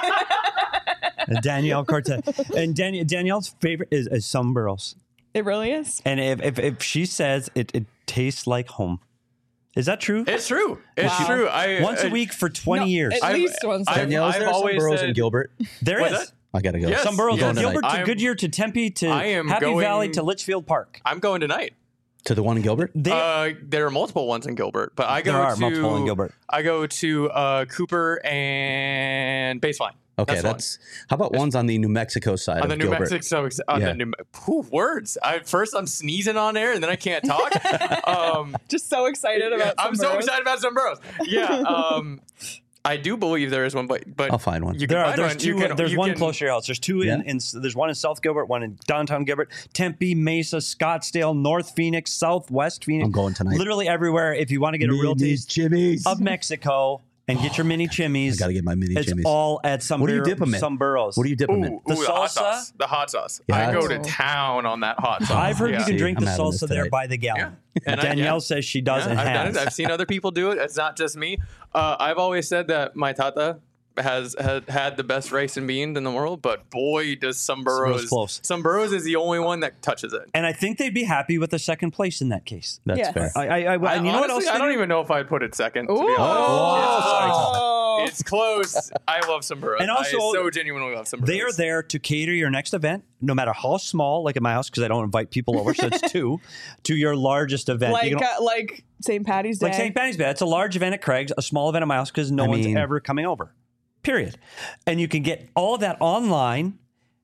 Danielle Cortez, and Dan, Danielle's favorite is, is sombreros. it really is. And if, if, if she says it, it tastes like home, is that true? It's true. It's Wow. true. I Once a I- week for twenty No, years. At I've- least once. I've- Danielle, is I've there some always burros said- in Gilbert? There What's is. that? I gotta go. Yes. Some boroughs Yes. from Gilbert to I'm- Goodyear to Tempe to I am Happy going- Valley to Litchfield Park. I'm going tonight. To the one in Gilbert? They, Uh, there are multiple ones in Gilbert, but I go There are to multiple in Gilbert. I go to uh, Cooper and Baseline. Okay, that's, that's, how about ones on the New Mexico side one. on of the New Gilbert? Mexico. On Yeah. the New, whew, words. I, first, I'm sneezing on air, and then I can't talk. um, Just so excited about I'm so sombreros. excited about sombreros. Yeah, um, I do believe there is one, but but I'll find one. You can There are, find there's one. two. You can, there's you one can, close to your house. There's two in, Yeah? in. There's one in South Gilbert, one in downtown Gilbert, Tempe, Mesa, Scottsdale, North Phoenix, Southwest Phoenix. I'm going tonight. Literally everywhere. If you want to get a real Minis, taste Jimmy's. of Mexico and get your mini chimneys, I gotta get my mini it's chimneys. all at some. What do you dip 'em in? Some burrows. What do you dip them in? Ooh, The ooh, the hot salsa? sauce. The hot sauce. Yeah, I go to that's- town on that hot sauce. I've heard yeah. you can See, drink I'm the having this salsa there tonight. by the gallon. And I- Danielle yeah. says she does Yeah, and I've done has. it. I've seen other people do it. It's not just me. Uh, I've always said that my tata has had, had the best rice and beans in the world, but boy, does some Sombrero's burrows. close. Some burrows is the only one that touches it. And I think they'd be happy with the second place in that case. That's Yes. fair. I, I, I, I, and you know what else? honestly, I they don't do? even know if I'd put it second. To Ooh. be honest. Oh, It's, it's close. I love some burros. And also, I so genuinely love some burros. They are there to cater your next event, no matter how small, like at my house, because I don't invite people over, so it's two, to your largest event. Like You can- uh, like Saint Patty's Day. like Saint Patty's Day. It's a large event at Craig's, a small event at my house, because no I one's mean- ever coming over, period. And you can get all of that online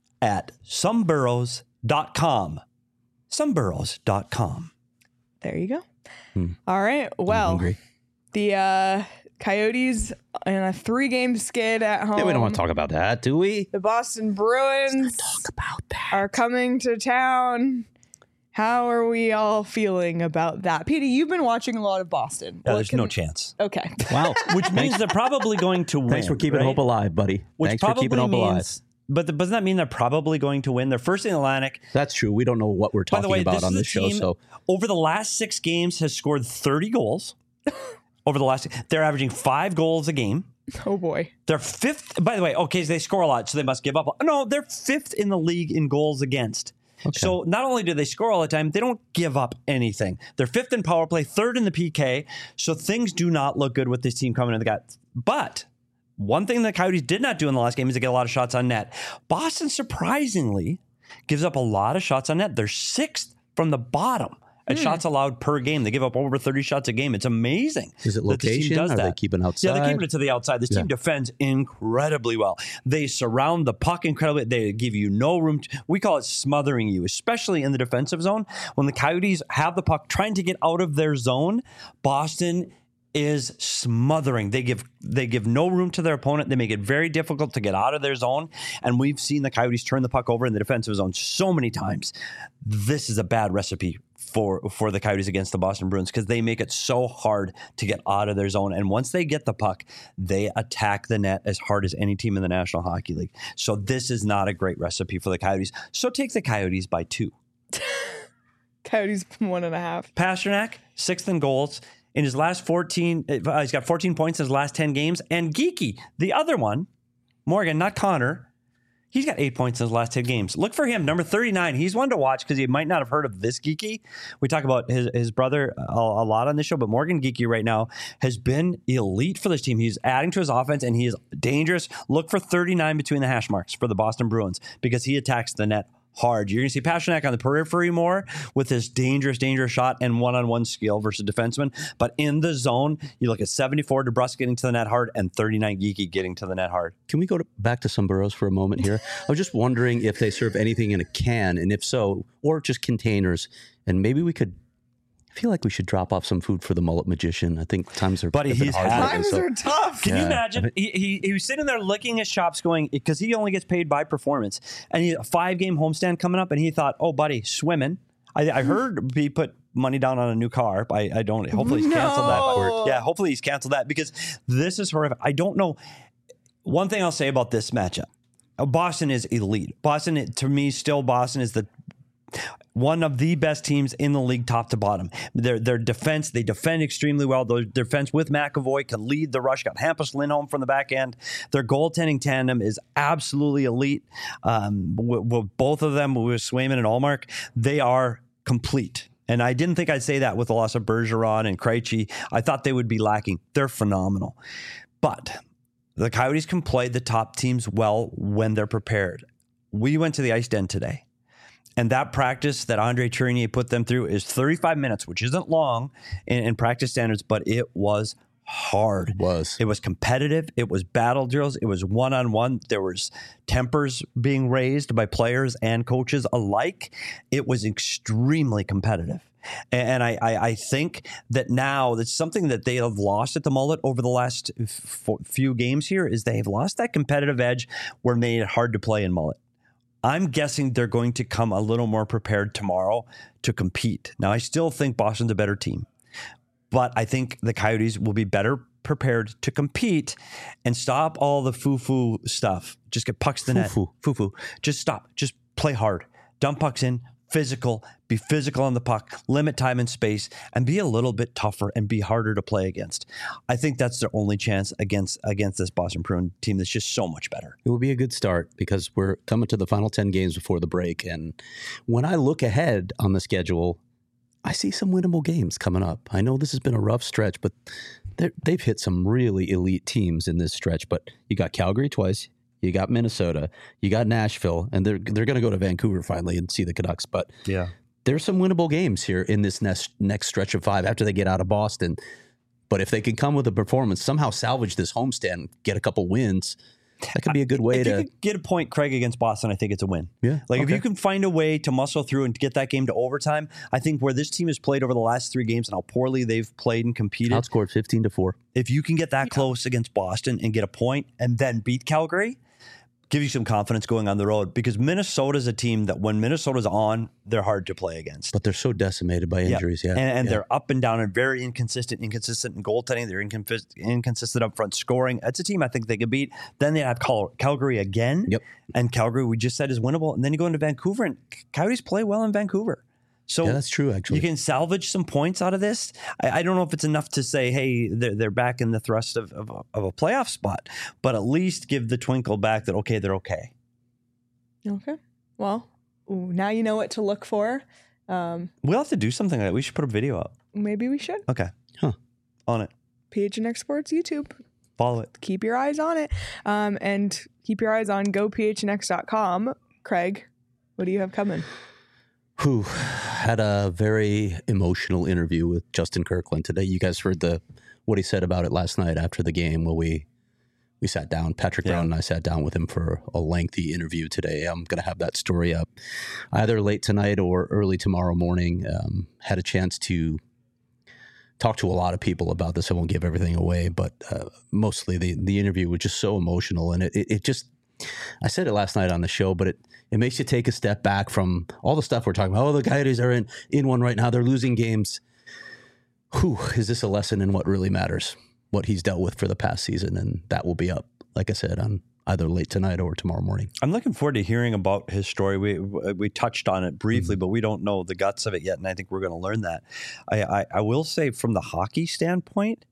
at some burros dot com. some burros dot com. There you go. Hmm. All right. I'm Well, hungry. the uh, Coyotes in a three-game skid at home. Yeah, we don't want to talk about that, do we? The Boston Bruins Talk about that. are coming to town. How are we all feeling about that? Petey, you've been watching a lot of Boston. Yeah, What there's can- no chance. Okay. Wow. Which means they're probably going to win. Thanks for keeping right? hope alive, buddy. Which Thanks for probably keeping hope alive. means, but the, doesn't that mean they're probably going to win? They're first in the Atlantic. That's true. We don't know what we're By talking the way, about this on is this a show. team So over the last six games has scored thirty goals. Over the last, they're averaging five goals a game. Oh, boy. They're fifth. By the way, okay, so they score a lot, so they must give up. No, they're fifth in the league in goals against. So not only do they score all the time, they don't give up anything. They're fifth in power play, third in the P K. So things do not look good with this team coming in the gut. But one thing the Coyotes did not do in the last game is to get a lot of shots on net. Boston, surprisingly, gives up a lot of shots on net. They're sixth from the bottom at Hmm. shots allowed per game. They give up over thirty shots a game. It's amazing. is it that this team location? does Are they that. keeping outside? Yeah, they're keeping it to the outside. This team Yeah. defends incredibly well. They surround the puck incredibly. They give you no room. To, we call it smothering you, especially in the defensive zone. When the Coyotes have the puck trying to get out of their zone, Boston is smothering. They give they give no room to their opponent. They make it very difficult to get out of their zone. And we've seen the Coyotes turn the puck over in the defensive zone so many times. This is a bad recipe for for the Coyotes against the Boston Bruins because they make it so hard to get out of their zone. And once they get the puck, they attack the net as hard as any team in the National Hockey League. So this is not a great recipe for the Coyotes. So take the Coyotes by two. Coyotes one and a half. Pasternak, sixth in goals. In his last fourteen, uh, he's got fourteen points in his last ten games. And Geeky, the other one, Morgan, not Connor, he's got eight points in his last ten games. Look for him, number thirty-nine. He's one to watch because you might not have heard of this Geeky. We talk about his, his brother a, a lot on this show, but Morgan Geeky right now has been elite for this team. He's adding to his offense, and he is dangerous. Look for thirty-nine between the hash marks for the Boston Bruins because he attacks the net hard. You're going to see Pasternak on the periphery more with his dangerous, dangerous shot and one-on-one skill versus defenseman. But in the zone, you look at seventy-four DeBrusque getting to the net hard and thirty-nine Geeky getting to the net hard. Can we go to, back to some burros for a moment here? I was just wondering if they serve anything in a can, and if so, or just containers. And maybe we could. I feel like we should drop off some food for the mullet magician. I think times are Buddy, have been he's hard had lately, Times so- are tough. Can you Yeah. imagine? He, he he was sitting there licking his chops, going because he only gets paid by performance, and he a five game homestand coming up, and he thought, "Oh, buddy, swimming." I, I heard he put money down on a new car. I, I don't. Hopefully, he's canceled No. that. Yeah, hopefully he's canceled that because this is horrific. I don't know. One thing I'll say about this matchup: Boston is elite. Boston, to me, still Boston is the one of the best teams in the league, top to bottom. Their their defense, they defend extremely well. Their defense with McAvoy can lead the rush. Got Hampus Lindholm from the back end. Their goaltending tandem is absolutely elite. Um, with, with both of them, with Swayman and Allmark, they are complete. And I didn't think I'd say that with the loss of Bergeron and Krejci. I thought they would be lacking. They're phenomenal. But the Coyotes can play the top teams well when they're prepared. We went to the Ice Den today. And that practice that Andre Tourigny put them through is thirty-five minutes, which isn't long in, in practice standards, but it was hard. It was. It was competitive. It was battle drills. It was one-on-one. There was tempers being raised by players and coaches alike. It was extremely competitive. And I, I, I think that now that's something that they have lost at the mullet over the last f- few games here is they have lost that competitive edge where it made it hard to play in mullet. I'm guessing they're going to come a little more prepared tomorrow to compete. Now, I still think Boston's a better team, but I think the Coyotes will be better prepared to compete and stop all the foo-foo stuff. Just get pucks to the net. Foo-foo. Foo-foo. Just stop. Just play hard. Dump pucks in. Physical. Be physical on the puck. Limit time and space. And be a little bit tougher and be harder to play against. I think that's their only chance against against this Boston Bruins team that's just so much better. It will be a good start because we're coming to the final ten games before the break. And when I look ahead on the schedule, I see some winnable games coming up. I know this has been a rough stretch, but they're- they've hit some really elite teams in this stretch, but you got Calgary twice, you got Minnesota, you got Nashville, and they're they're going to go to Vancouver finally and see the Canucks. But Yeah. there's some winnable games here in this next next stretch of five after they get out of Boston. But if they can come with a performance, somehow salvage this homestand, get a couple wins, that could be a good way If to. you could get a point, Craig, against Boston, I think it's a win. Yeah, Like if okay. you can find a way to muscle through and get that game to overtime, I think where this team has played over the last three games and how poorly they've played and competed, outscored fifteen to four. if you can get that close against Boston and get a point and then beat Calgary, give you some confidence going on the road, because Minnesota's a team that when Minnesota's on, they're hard to play against. But they're so decimated by injuries. Yeah, And, and yeah. they're up and down and very inconsistent, inconsistent in goaltending. They're incon- inconsistent up front scoring. That's a team I think they could beat. Then they have Cal- Calgary again. Yep. And Calgary, we just said, is winnable. And then you go into Vancouver, and Coyotes play well in Vancouver. So Yeah, that's true, actually. you can salvage some points out of this. I, I don't know if it's enough to say, hey, they're, they're back in the thrust of, of, a- of a playoff spot, but at least give the twinkle back that, okay, they're okay. Okay. Well, ooh, now you know what to look for. Um, We'll have to do something like that. We should put a video up. maybe we should. Okay. Huh. On it. P H N X Sports YouTube. Follow it. Keep your eyes on it. Um, and keep your eyes on go p h n x dot com. Craig, what do you have coming? Who had a very emotional interview with Justin Kirkland today. You guys heard the what he said about it last night after the game. Well, we we sat down. Patrick Yeah. Brown and I sat down with him for a lengthy interview today. I'm going to have that story up either late tonight or early tomorrow morning. Um, had a chance to talk to a lot of people about this. I won't give everything away, but uh, mostly the the interview was just so emotional, and it, it it just. I said it last night on the show, but it, it makes you take a step back from all the stuff we're talking about. Oh, the Coyotes are in, in one right now. They're losing games. Whew, is this a lesson in what really matters? What he's dealt with for the past season. And that will be up, like I said, on either late tonight or tomorrow morning. I'm looking forward to hearing about his story. We we touched on it briefly, but we don't know the guts of it yet, and I think we're going to learn that. I, I, I will say, from the hockey standpoint,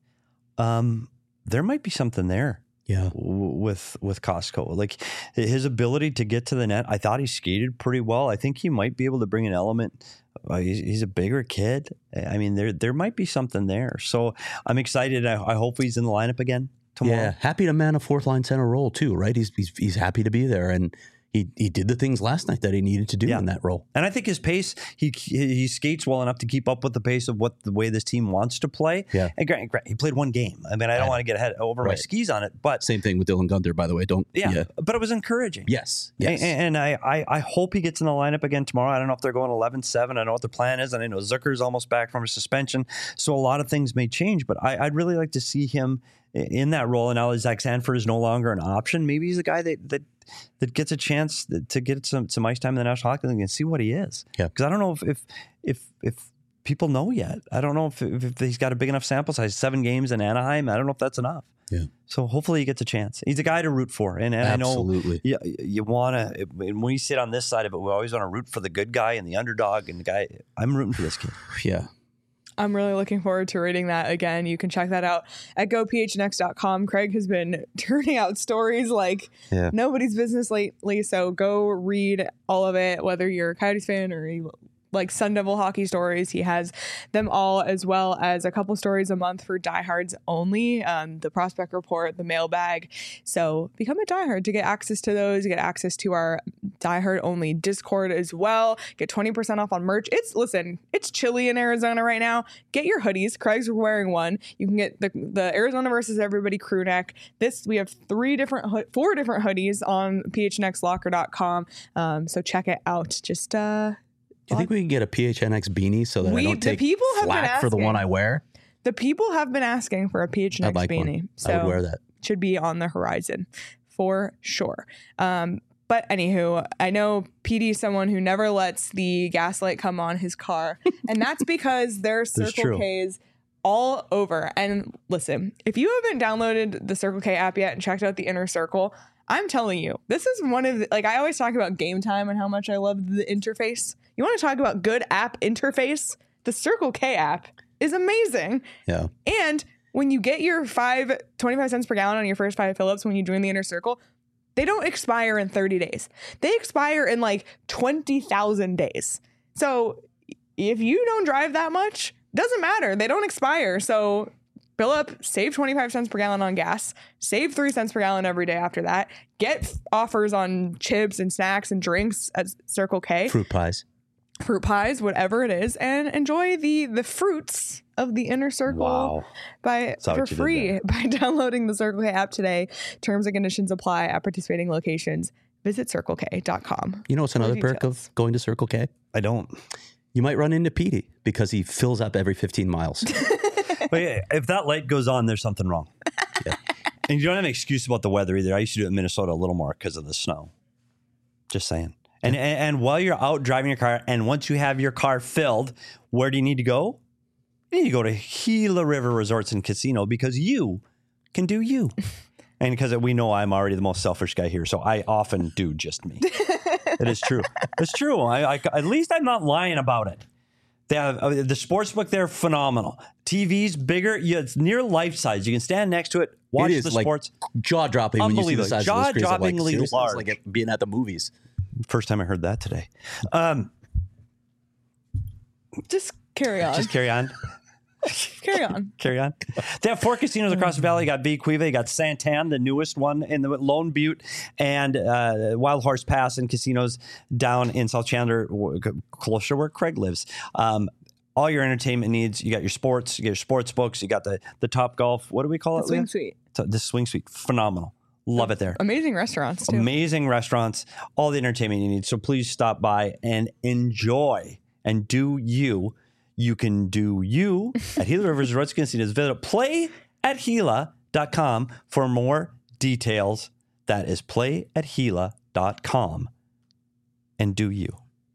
um, there might be something there. Yeah. w- with with Costco. Like his ability to get to the net, I thought he skated pretty well. I think he might be able to bring an element. Uh, he's, he's a bigger kid. I mean, there there might be something there. So I'm excited. I, I hope he's in the lineup again tomorrow. Yeah. Happy to man a fourth line center role too, right? He's, he's, he's happy to be there. And he, he did the things last night that he needed to do Yeah. in that role. And I think his pace, he he skates well enough to keep up with the pace of what the way this team wants to play. Yeah. And Grant, Grant, he played one game. I mean, I don't Right. want to get ahead over my Right. skis on it, but Same thing with Dylan Gunther, by the way. Don't. yeah, Yeah. but it was encouraging. Yes. Yes. And, and I, I, I hope he gets in the lineup again tomorrow. I don't know if they're going eleven seven. I don't know what the plan is. And I know Zucker's almost back from a suspension. So a lot of things may change, but I, I'd really like to see him i- in that role. And now that Zach Sanford is no longer an option, maybe he's a guy that that, that gets a chance to get some, some ice time in the National Hockey League and see what he is. Yeah. Because I don't know if, if, if, if people know yet. I don't know if, if, if he's got a big enough sample size, seven games in Anaheim. I don't know if that's enough. Yeah. So hopefully he gets a chance. He's a guy to root for. And, and I know Absolutely. yeah, you want to. When we sit on this side of it, we always want to root for the good guy and the underdog and the guy. I'm rooting for this kid. Yeah. I'm really looking forward to reading that again. You can check that out at go p h n x dot com. Craig has been turning out stories like Yeah. nobody's business lately. So go read all of it, whether you're a Coyotes fan or you like Sun Devil hockey stories. He has them all, as well as a couple stories a month for diehards only. Um, the prospect report, the mailbag. So become a diehard to get access to those. Get access to our diehard only Discord as well. Get twenty percent off on merch. It's listen, it's chilly in Arizona right now. Get your hoodies. Craig's wearing one. You can get the the Arizona versus Everybody crew neck. This we have three different, ho- four different hoodies on p h n x locker dot com. Um, so check it out. Just uh. Do you think we can get a P H N X beanie so that We- I don't the take people have been flack for the one asking. I wear? The people have been asking for a P H N X I'd like beanie, one. so I would wear that. should be on the horizon for sure. Um, but anywho, I know P D is someone who never lets the gaslight come on his car, and that's because there's That's Circle true. K's all over. And listen, if you haven't downloaded the Circle K app yet and checked out the Inner Circle, I'm telling you, this is one of the, like, I always talk about Game Time and how much I love the interface. You want to talk about good app interface? The Circle K app is amazing. Yeah. And when you get your five, twenty-five cents per gallon on your first five fill-ups when you join the Inner Circle, they don't expire in thirty days. They expire in like twenty thousand days. So if you don't drive that much, doesn't matter. They don't expire. So Fill up, save twenty-five cents per gallon on gas, save three cents per gallon every day after that. Get f- offers on chips and snacks and drinks at Circle K. Fruit pies. Fruit pies, whatever it is, and enjoy the the fruits of the inner circle Wow. by Saw for what you did free there. by downloading the Circle K app today. Terms and conditions apply at participating locations. Visit circle k dot com. You know what's another perk details. of going to Circle K? I don't. You might run into Petey because he fills up every fifteen miles. But yeah, if that light goes on, there's something wrong. Yeah. And you don't have an excuse about the weather either. I used to do it in Minnesota a little more because of the snow. Just saying. And, and and while you're out driving your car, and once you have your car filled, where do you need to go? You need to go to Gila River Resorts and Casino because you can do you. And because we know I'm already the most selfish guy here, so I often do just me. It is true. It's true. I, I, at least I'm not lying about it. They have uh, the sports book there, phenomenal. T V's bigger. Yeah, it's near life size. You can stand next to it, watch It is the like sports. jaw dropping when you see the Unbelievable. size of the screens. I'm like, Jaw-droppingly seriously? It's large. like it being at the movies. First time I heard that today. Um, Just carry on. just carry on. carry on. Carry on. They have four casinos across the valley. You got Bequeva, you got Santan, the newest one in the Lone Butte, and uh, Wild Horse Pass and casinos down in South Chandler, w- closer where Craig lives. Um, all your entertainment needs. You got your sports, you got your sports books, you got the the Top Golf. What do we call The it? swing Leah? suite. So the Swing Suite. Phenomenal. Love it there. Amazing restaurants too. Amazing restaurants, all the entertainment you need. So please stop by and enjoy and do you. You can do you at Gila River Resorts Casinos. Visit play at Gila dot com for more details. That is play at Gila dot com and do you.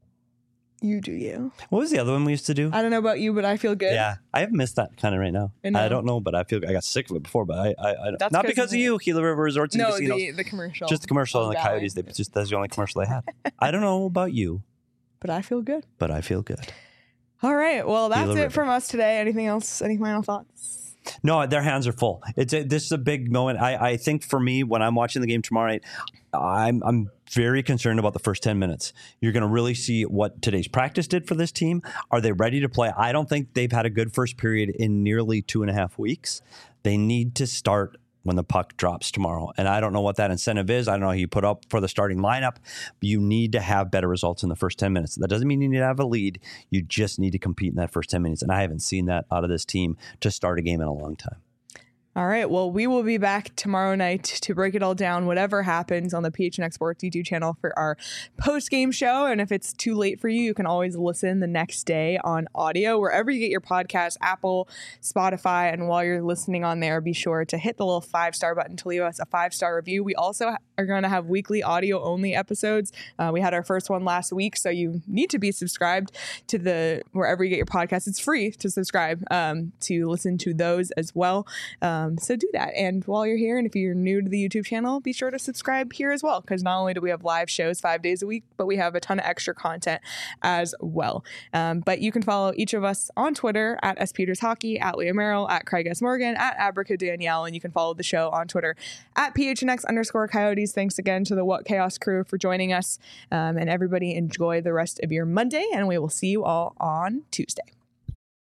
You do you. What was the other one we used to do? I don't know about you, but I feel good. Yeah, I have missed that kind of right now. I know. I don't know, but I feel I got sick of it before. But I, I, I That's not 'cause because of of you, Gila River Resorts and No, Casinos. the, the commercial. Just the commercial on and the Valley. Coyotes. They just that's the only commercial they had. I don't know about you, But I feel good. but I feel good. All right. Well, that's Gila it River. from us today. Anything else? Any final thoughts? No, their hands are full. It's a, this is a big moment. I, I think for me, when I'm watching the game tomorrow night, I'm I'm very concerned about the first ten minutes. You're going to really see what today's practice did for this team. Are they ready to play? I don't think they've had a good first period in nearly two and a half weeks. They need to start when the puck drops tomorrow. And I don't know what that incentive is. I don't know who you put up for the starting lineup. But you need to have better results in the first ten minutes. That doesn't mean you need to have a lead. You just need to compete in that first ten minutes. And I haven't seen that out of this team to start a game in a long time. All right. Well, we will be back tomorrow night to break it all down, whatever happens on the P H N X Sports YouTube channel for our post-game show. And if it's too late for you, you can always listen the next day on audio, wherever you get your podcast, Apple, Spotify. And while you're listening on there, be sure to hit the little five-star button to leave us a five-star review. We also are going to have weekly audio-only episodes. Uh, we had our first one last week, so you need to be subscribed to the wherever you get your podcast. It's free to subscribe um, to listen to those as well. Um, so do that. And while you're here, and if you're new to the YouTube channel, be sure to subscribe here as well, because not only do we have live shows five days a week, but we have a ton of extra content as well. Um, but you can follow each of us on Twitter at S Peters Hockey, at Leah Merrill, at Craig S. Morgan, at Abrica Danielle, and you can follow the show on Twitter at P H N X underscore Coyotes. Thanks again to the What Chaos crew for joining us, um, and everybody enjoy the rest of your Monday, and we will see you all on Tuesday.